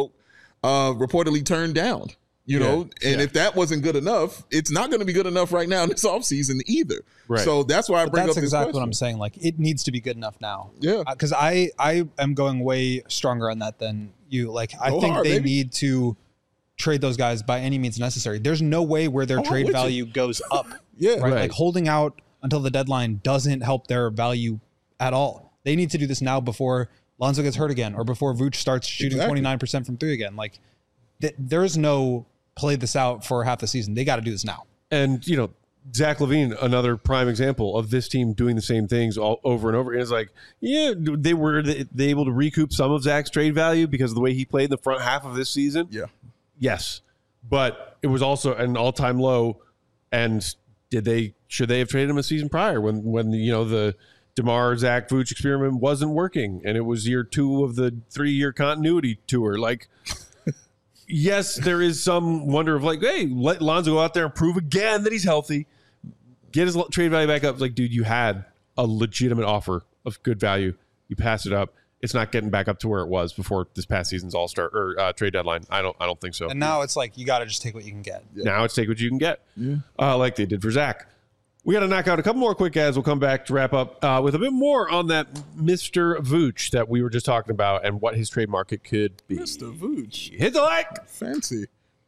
reportedly turned down, and if that wasn't good enough, it's not going to be good enough right now in this offseason either. Right. So that's why I bring up this exactly question. What I'm saying. Like, it needs to be good enough now. Yeah. Because I am going way stronger on that than you. Like, I think they need to trade those guys by any means necessary. There's no way where their trade value goes up. Yeah. Right? Like, holding out until the deadline doesn't help their value at all. They need to do this now before Lonzo gets hurt again or before Vooch starts shooting 29% from three again. Like, there's no play this out for half the season. They got to do this now. And, Zach LaVine, another prime example of this team doing the same things all over and over again. It's like, they were able to recoup some of Zach's trade value because of the way he played in the front half of this season. Yeah. Yes. But it was also an all-time low. And should they have traded him a season prior when the DeMar Zach Vooch experiment wasn't working and it was year 2 of the 3-year continuity tour? Like, yes, there is some wonder of like, hey, let Lonzo go out there and prove again that he's healthy, get his trade value back up. It's like, dude, you had a legitimate offer of good value. You pass it up. It's not getting back up to where it was before this past season's All-Star or trade deadline. I don't think so. And now it's like you got to just take what you can get. Yeah. Now it's take what you can get, like they did for Zach. We got to knock out a couple more quick ads. We'll come back to wrap up with a bit more on that Mr. Vooch that we were just talking about and what his trade market could be. Mr. Vooch. Hit the like. Fancy.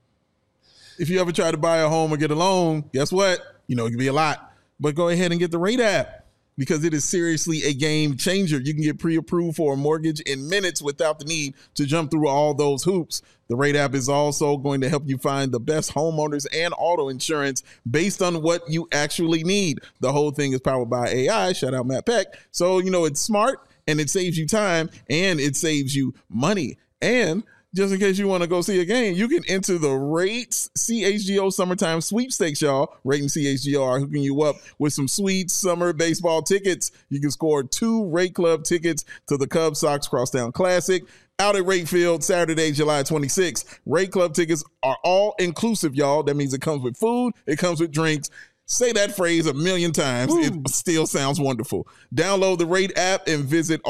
If you ever try to buy a home or get a loan, guess what? It can be a lot. But go ahead and get the Rate app because it is seriously a game changer. You can get pre-approved for a mortgage in minutes without the need to jump through all those hoops. The Rate app is also going to help you find the best homeowners and auto insurance based on what you actually need. The whole thing is powered by AI. Shout out Matt Peck. So, it's smart and it saves you time and it saves you money. And just in case you want to go see a game, you can enter the Rates CHGO Summertime Sweepstakes, y'all. Rate and CHGO are hooking you up with some sweet summer baseball tickets. You can score 2 Rate Club tickets to the Cubs Sox Crosstown Classic out at Rate Field Saturday, July 26th. Rate Club tickets are all inclusive, y'all. That means it comes with food, it comes with drinks. Say that phrase a million times. Ooh. It still sounds wonderful. Download the Rate app and visit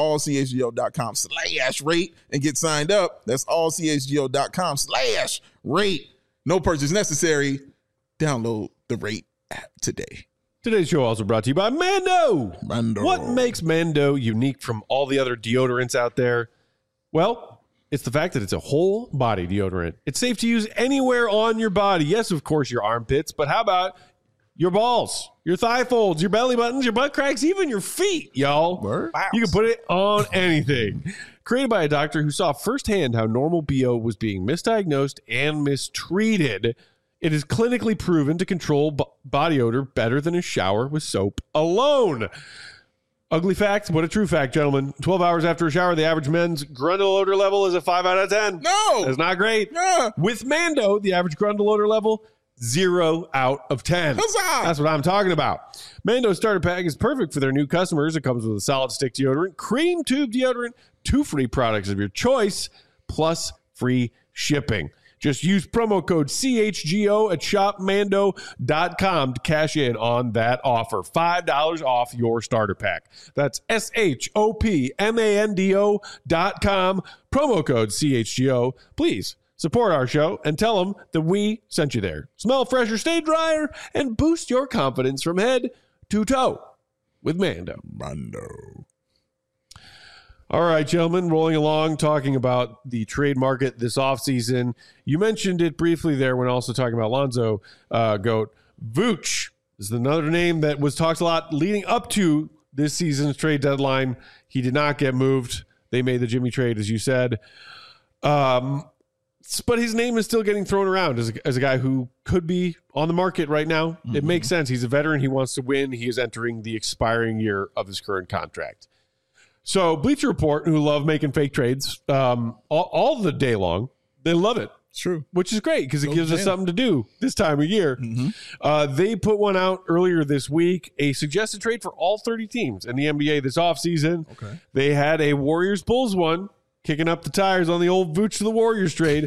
allchgo.com/rate and get signed up. That's allchgo.com/rate. No purchase necessary. Download the Rate app today. Today's show also brought to you by Mando. Mando. What makes Mando unique from all the other deodorants out there? Well, it's the fact that it's a whole body deodorant. It's safe to use anywhere on your body. Yes, of course, your armpits, but how about your balls, your thigh folds, your belly buttons, your butt cracks, even your feet, y'all. Word? You can put it on anything. Created by a doctor who saw firsthand how normal BO was being misdiagnosed and mistreated, it is clinically proven to control body odor better than a shower with soap alone. Ugly fact, but a true fact, gentlemen. 12 hours after a shower, the average men's grundle odor level is a 5 out of 10. No. That's not great. Yeah. With Mando, the average grundle odor level, 0 out of 10. Huzzah! That's what I'm talking about. Mando starter pack is perfect for their new customers. It comes with a solid stick deodorant, cream tube deodorant, 2 free products of your choice, plus free shipping. Just use promo code CHGO at shopmando.com to cash in on that offer. $5 off your starter pack. That's SHOPMANDO.com. Promo code CHGO. Please support our show and tell them that we sent you there. Smell fresher, stay drier, and boost your confidence from head to toe with Mando. Mando. All right, gentlemen, rolling along, talking about the trade market this offseason. You mentioned it briefly there when also talking about Lonzo, Goat. Vooch is another name that was talked a lot leading up to this season's trade deadline. He did not get moved. They made the Jimmy trade, as you said. But his name is still getting thrown around as a guy who could be on the market right now. Mm-hmm. It makes sense. He's a veteran. He wants to win. He is entering the expiring year of his current contract. So Bleacher Report, who love making fake trades all the day long, they love it. It's true. Which is great because it gives us something to do this time of year. Mm-hmm. They put one out earlier this week, a suggested trade for all 30 teams in the NBA this offseason. Okay. They had a Warriors-Bulls one, kicking up the tires on the old Vooch to the Warriors trade.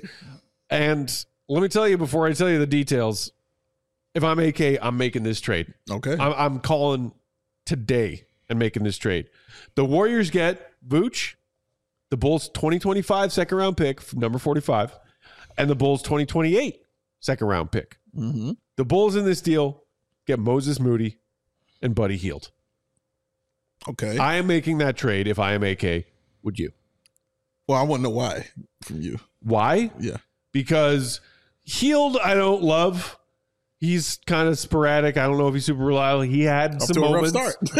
And let me tell you before I tell you the details, if I'm AK, I'm making this trade. Okay. I'm calling today and making this trade. The Warriors get Vooch, the Bulls 2025 second round pick from number 45, and the Bulls 2028 second round pick. Mm-hmm. The Bulls in this deal get Moses Moody and Buddy Hield. Okay. I am making that trade if I am AK. Would you? Well, I want to know why from you. Why? Yeah. Because Hield I don't love. He's kind of sporadic. I don't know if he's super reliable. He had some moments.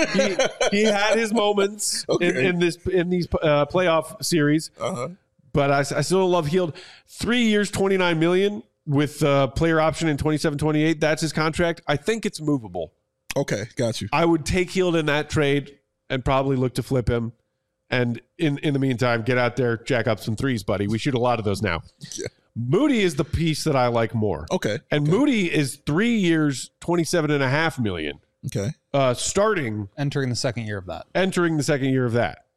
he had his moments in these playoff series. Uh-huh. But I still don't love Hield. 3 years, $29 million with player option in 27-28. That's his contract. I think it's movable. Okay, got you. I would take Hield in that trade and probably look to flip him. And in the meantime, get out there, jack up some threes, buddy. We shoot a lot of those now. Yeah. Moody is the piece that I like more. Okay. And Moody is 3 years, $27.5 million. Okay. Entering the second year of that.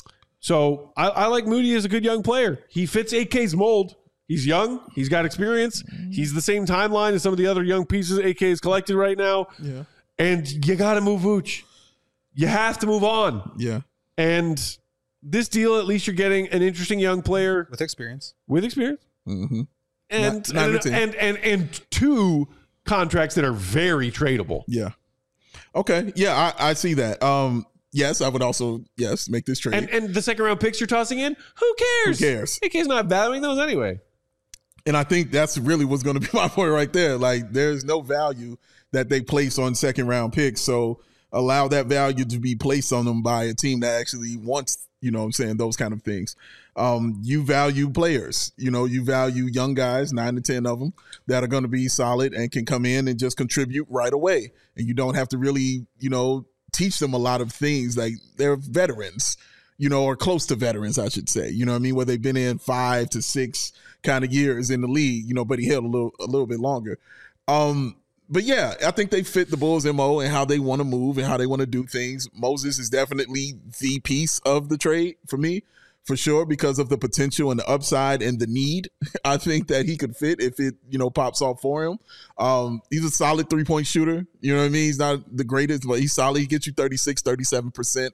So I like Moody as a good young player. He fits AK's mold. He's young. He's got experience. He's the same timeline as some of the other young pieces AK has collected right now. Yeah. And you got to move Vooch. You have to move on. Yeah. And this deal, at least you're getting an interesting young player. With experience. Mm-hmm. And 2 contracts that are very tradable. Yeah. Okay. Yeah, I see that. Yes, I would also make this trade. And the second round picks you're tossing in, who cares? AK's not valuing those anyway. And I think that's really what's going to be my point right there. Like, there's no value that they place on second round picks. So allow that value to be placed on them by a team that actually wants, those kind of things. You value players, you value young guys, 9 to 10 of them that are going to be solid and can come in and just contribute right away. And you don't have to really, teach them a lot of things. Like, they're veterans, or close to veterans, I should say, where they've been in 5 to 6 kind of years in the league, but he held a little bit longer. But yeah, I think they fit the Bulls' MO and how they want to move and how they want to do things. Moses is definitely the piece of the trade for me, for sure, because of the potential and the upside and the need. I think that he could fit if it, pops off for him. He's a solid 3-point shooter. You know what I mean? He's not the greatest, but he's solid. He gets you 36, 37%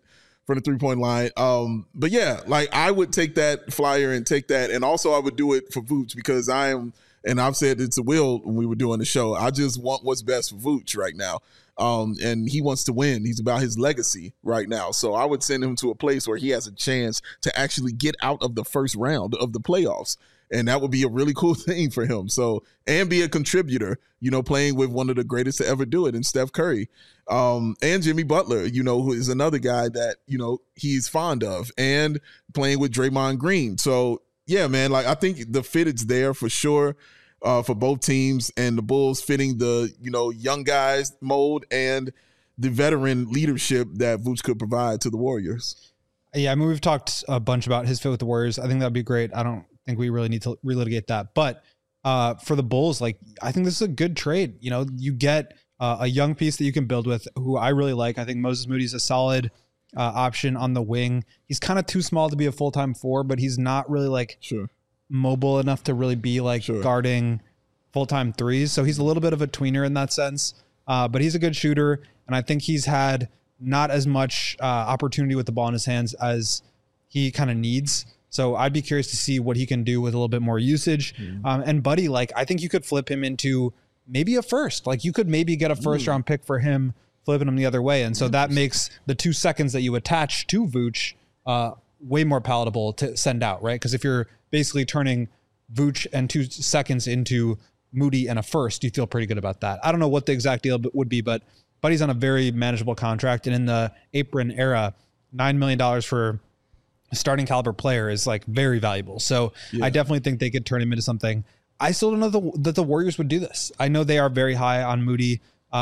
from the 3-point line. But yeah, like I would take that flyer and take that. And also I would do it for Vooch because and I've said it to Will when we were doing the show, I just want what's best for Vooch right now. And he wants to win. He's about his legacy right now. So I would send him to a place where he has a chance to actually get out of the first round of the playoffs. And that would be a really cool thing for him. So, and be a contributor, playing with one of the greatest to ever do it in Steph Curry. And Jimmy Butler, who is another guy that, he's fond of, and playing with Draymond Green. So yeah, man, like I think the fit is there for sure. For both teams, and the Bulls fitting the young guys mold and the veteran leadership that Vooch could provide to the Warriors. Yeah, I mean, we've talked a bunch about his fit with the Warriors. I think that'd be great. I don't think we really need to relitigate that. But for the Bulls, like I think this is a good trade. You get a young piece that you can build with, who I really like. I think Moses Moody's a solid option on the wing. He's kind of too small to be a full-time 4, but he's not really like mobile enough to really be like guarding full-time 3s. So he's a little bit of a tweener in that sense, but he's a good shooter. And I think he's had not as much opportunity with the ball in his hands as he kind of needs. So I'd be curious to see what he can do with a little bit more usage. And Buddy, like, I think you could flip him into maybe a first. Like you could maybe get a first round pick for him, flipping him the other way. And so that makes the 2 seconds that you attach to Vooch way more palatable to send out, right? Because if you're basically turning Vooch and 2 seconds into Moody and a first, you feel pretty good about that. I don't know what the exact deal would be, but Buddy's on a very manageable contract. And in the apron era, $9 million for a starting caliber player is like very valuable. So I definitely think they could turn him into something. I still don't know that the Warriors would do this. I know they are very high on Moody.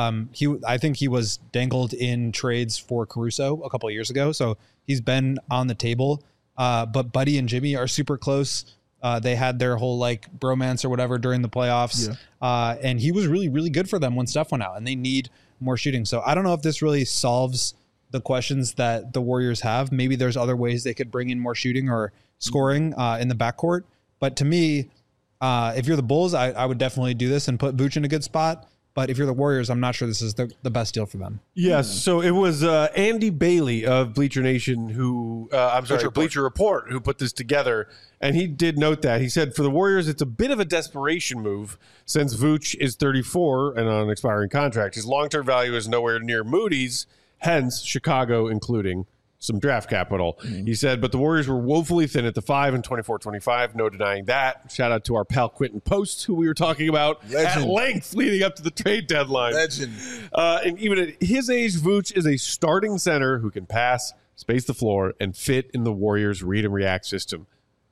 I think he was dangled in trades for Caruso a couple of years ago. So he's been on the table. But Buddy and Jimmy are super close. They had their whole like bromance or whatever during the playoffs. And he was really, really good for them when Steph went out, and they need more shooting. So I don't know if this really solves the questions that the Warriors have. Maybe there's other ways they could bring in more shooting or scoring in the backcourt. But to me, if you're the Bulls, I would definitely do this and put Vooch in a good spot. But if you're the Warriors, I'm not sure this is the best deal for them. Yes. So it was Andy Bailey of Bleacher Nation Bleacher Report, who put this together. And he did note that. He said, for the Warriors, it's a bit of a desperation move since Vooch is 34 and on an expiring contract. His long-term value is nowhere near Moody's, hence Chicago including some draft capital. He said, but the Warriors were woefully thin at the 5 and 24-25. No denying that. Shout out to our pal Quentin Post, who we were talking about at length leading up to the trade deadline. Legend. And even at his age, Vooch is a starting center who can pass, space the floor, and fit in the Warriors' read and react system.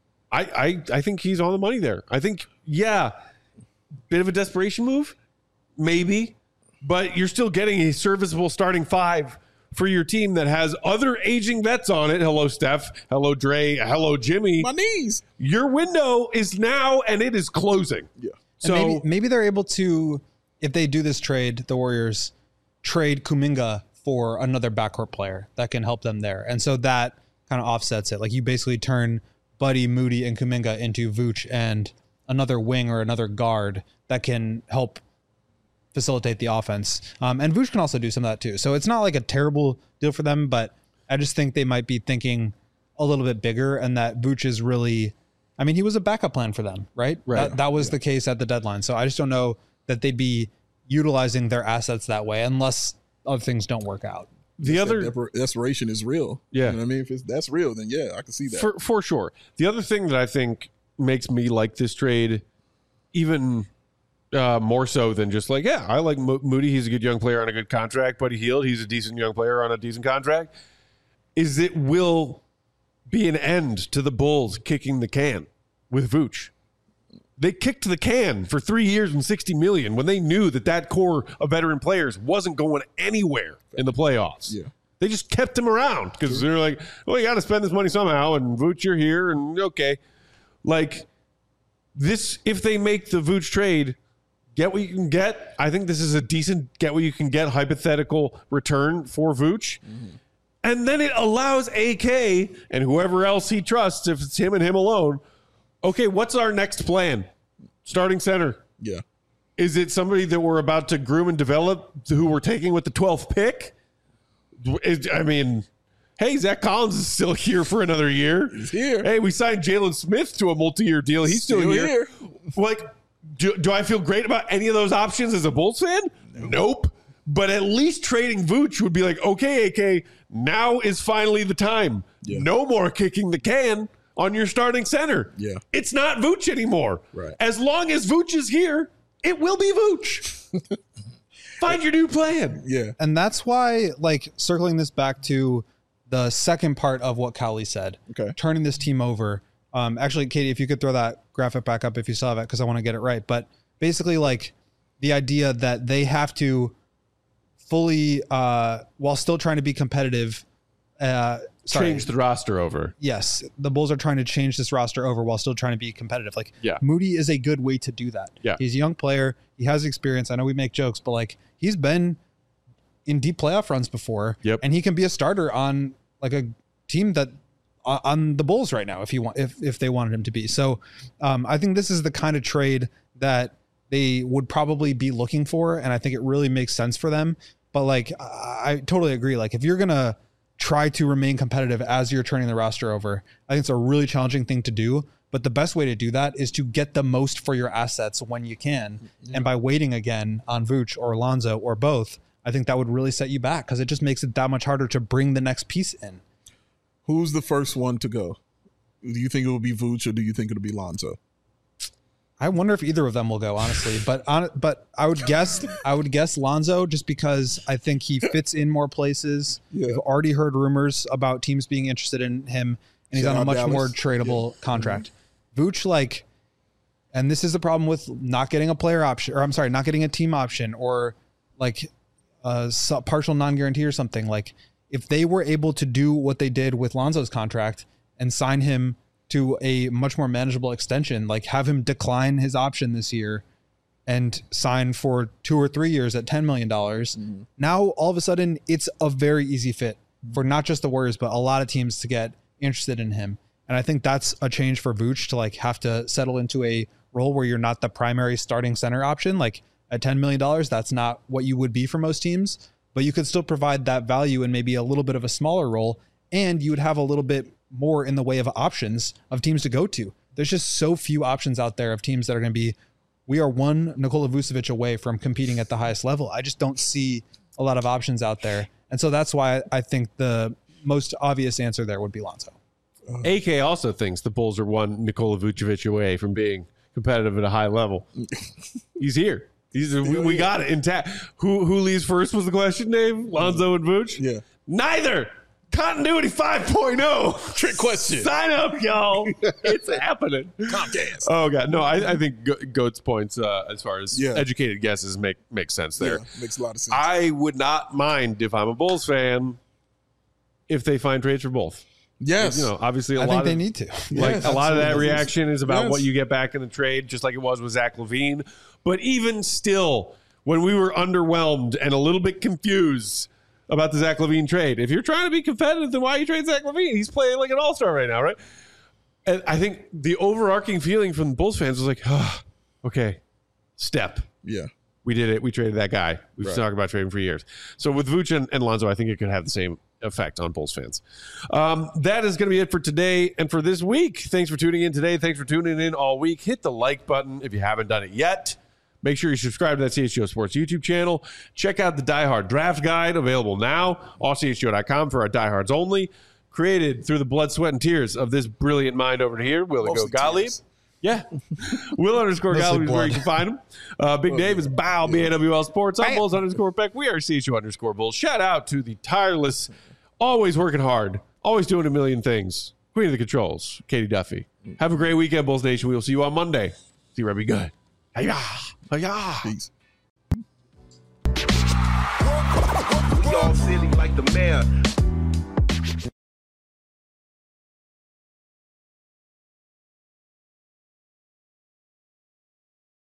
I think he's on the money there. I think, bit of a desperation move, maybe, but you're still getting a serviceable starting 5 for your team that has other aging vets on it. Hello, Steph. Hello, Dre. Hello, Jimmy. My knees. Your window is now, and it is closing. Yeah. So maybe they're able to, if they do this trade, the Warriors trade Kuminga for another backcourt player that can help them there. And so that kind of offsets it. Like you basically turn Buddy, Moody, and Kuminga into Vooch and another wing or another guard that can help facilitate the offense. And Vooch can also do some of that too. So it's not like a terrible deal for them, but I just think they might be thinking a little bit bigger, and that Vooch is really, I mean, he was a backup plan for them, right? That was the case at the deadline. So I just don't know that they'd be utilizing their assets that way unless other things don't work out. The other desperation is real. Yeah. You know what I mean? If that's real, then I can see that. For sure. The other thing that I think makes me like this trade even more so than just like, I like Moody. He's a good young player on a good contract. Buddy Hield, he's a decent young player on a decent contract. Is it will be an end to the Bulls kicking the can with Vooch. They kicked the can for 3 years and $60 million when they knew that core of veteran players wasn't going anywhere in the playoffs. Yeah. They just kept him around because they're like, well, you got to spend this money somehow, and Vooch, you're here, and okay. Like this, if they make the Vooch trade, get what you can get. I think this is a decent get what you can get hypothetical return for Vooch. Mm-hmm. And then it allows AK and whoever else he trusts, if it's him and him alone, okay, what's our next plan? Starting center. Yeah. Is it somebody that we're about to groom and develop who we're taking with the 12th pick? Hey, Zach Collins is still here for another year. He's here. Hey, we signed Jalen Smith to a multi-year deal. He's still here. Like, do I feel great about any of those options as a Bulls fan? Nope. But at least trading Vooch would be like, okay, AK, now is finally the time. Yeah. No more kicking the can on your starting center. Yeah. It's not Vooch anymore. Right. As long as Vooch is here, it will be Vooch. Find your new plan. Yeah. And that's why, like, circling this back to the second part of what Cowley said, turning this team over. Actually, Katie, if you could throw that graphic back up if you still have it, because I want to get it right. But basically, like, the idea that they have to fully, while still trying to be competitive, change the roster over. Yes, the Bulls are trying to change this roster over while still trying to be competitive. Like, Moody is a good way to do that. Yeah. He's a young player. He has experience. I know we make jokes, but like, he's been in deep playoff runs before. Yep. And he can be a starter on like a team that on the Bulls right now if they wanted him to be. So I think this is the kind of trade that they would probably be looking for, and I think it really makes sense for them. But like, I totally agree. Like, if you're gonna try to remain competitive as you're turning the roster over, I think it's a really challenging thing to do. But the best way to do that is to get the most for your assets when you can. Yeah. And by waiting again on Vooch or Lonzo or both, I think that would really set you back, because it just makes it that much harder to bring the next piece in. Who's the first one to go? Do you think it will be Vooch, or do you think it'll be Lonzo? I wonder if either of them will go, honestly. But I would guess Lonzo, just because I think he fits in more places. Yeah. We've already heard rumors about teams being interested in him, and he's on a much more tradable contract. Mm-hmm. Vooch, like, and this is the problem with not getting a player option, or I'm sorry, not getting a team option, or like a partial non-guarantee or something. Like, if they were able to do what they did with Lonzo's contract and sign him to a much more manageable extension, like have him decline his option this year and sign for 2 or 3 years at $10 million. Mm-hmm. Now, all of a sudden, it's a very easy fit for not just the Warriors, but a lot of teams to get interested in him. And I think that's a change for Vooch to like have to settle into a role where you're not the primary starting center option. Like at $10 million, that's not what you would be for most teams, but you could still provide that value in maybe a little bit of a smaller role. And you would have a little bit more in the way of options of teams to go to. There's just so few options out there of teams that are going to be, we are one Nikola Vucevic away from competing at the highest level. I just don't see a lot of options out there. And so that's why I think the most obvious answer there would be Lonzo. AK also thinks the Bulls are one Nikola Vucevic away from being competitive at a high level. He's here. We got it intact. Who leaves first was the question, Dave? Lonzo and Vooch? Yeah. Neither. Continuity 5.0. Trick question. Sign up, y'all. It's happening. Comcast. Oh, God. No, I think Goat's points as far as educated guesses make sense there. Yeah, makes a lot of sense. I would not mind, if I'm a Bulls fan, if they find trades for both. Yes. You know, obviously I think they need to. Like a lot of that reaction is about what you get back in the trade, just like it was with Zach LaVine. But even still, when we were underwhelmed and a little bit confused about the Zach LaVine trade, if you're trying to be competitive, then why you trade Zach LaVine? He's playing like an all-star right now, right? And I think the overarching feeling from the Bulls fans was like, oh, okay, step. Yeah. We did it. We traded that guy. We've been talking about trading for years. So with Vooch and Lonzo, I think it could have the same effect on Bulls fans. That is going to be it for today and for this week. Thanks for tuning in today. Thanks for tuning in all week. Hit the like button if you haven't done it yet. Make sure you subscribe to that CHGO Sports YouTube channel. Check out the Die Hard Draft Guide, available now, allchgo.com for our diehards only. Created through the blood, sweat, and tears of this brilliant mind over here, Will Gottlieb. Yeah. Will_Gottlieb is where you can find him. Big Dave is Bow, BAWL Sports. I'm Bulls_Beck. We are CHGO_Bulls. Shout out to the tireless, always working hard, always doing a million things, Queen of the Controls, Katie Duffy. Have a great weekend, Bulls Nation. We will see you on Monday. See you, be good. Hiya. Peace.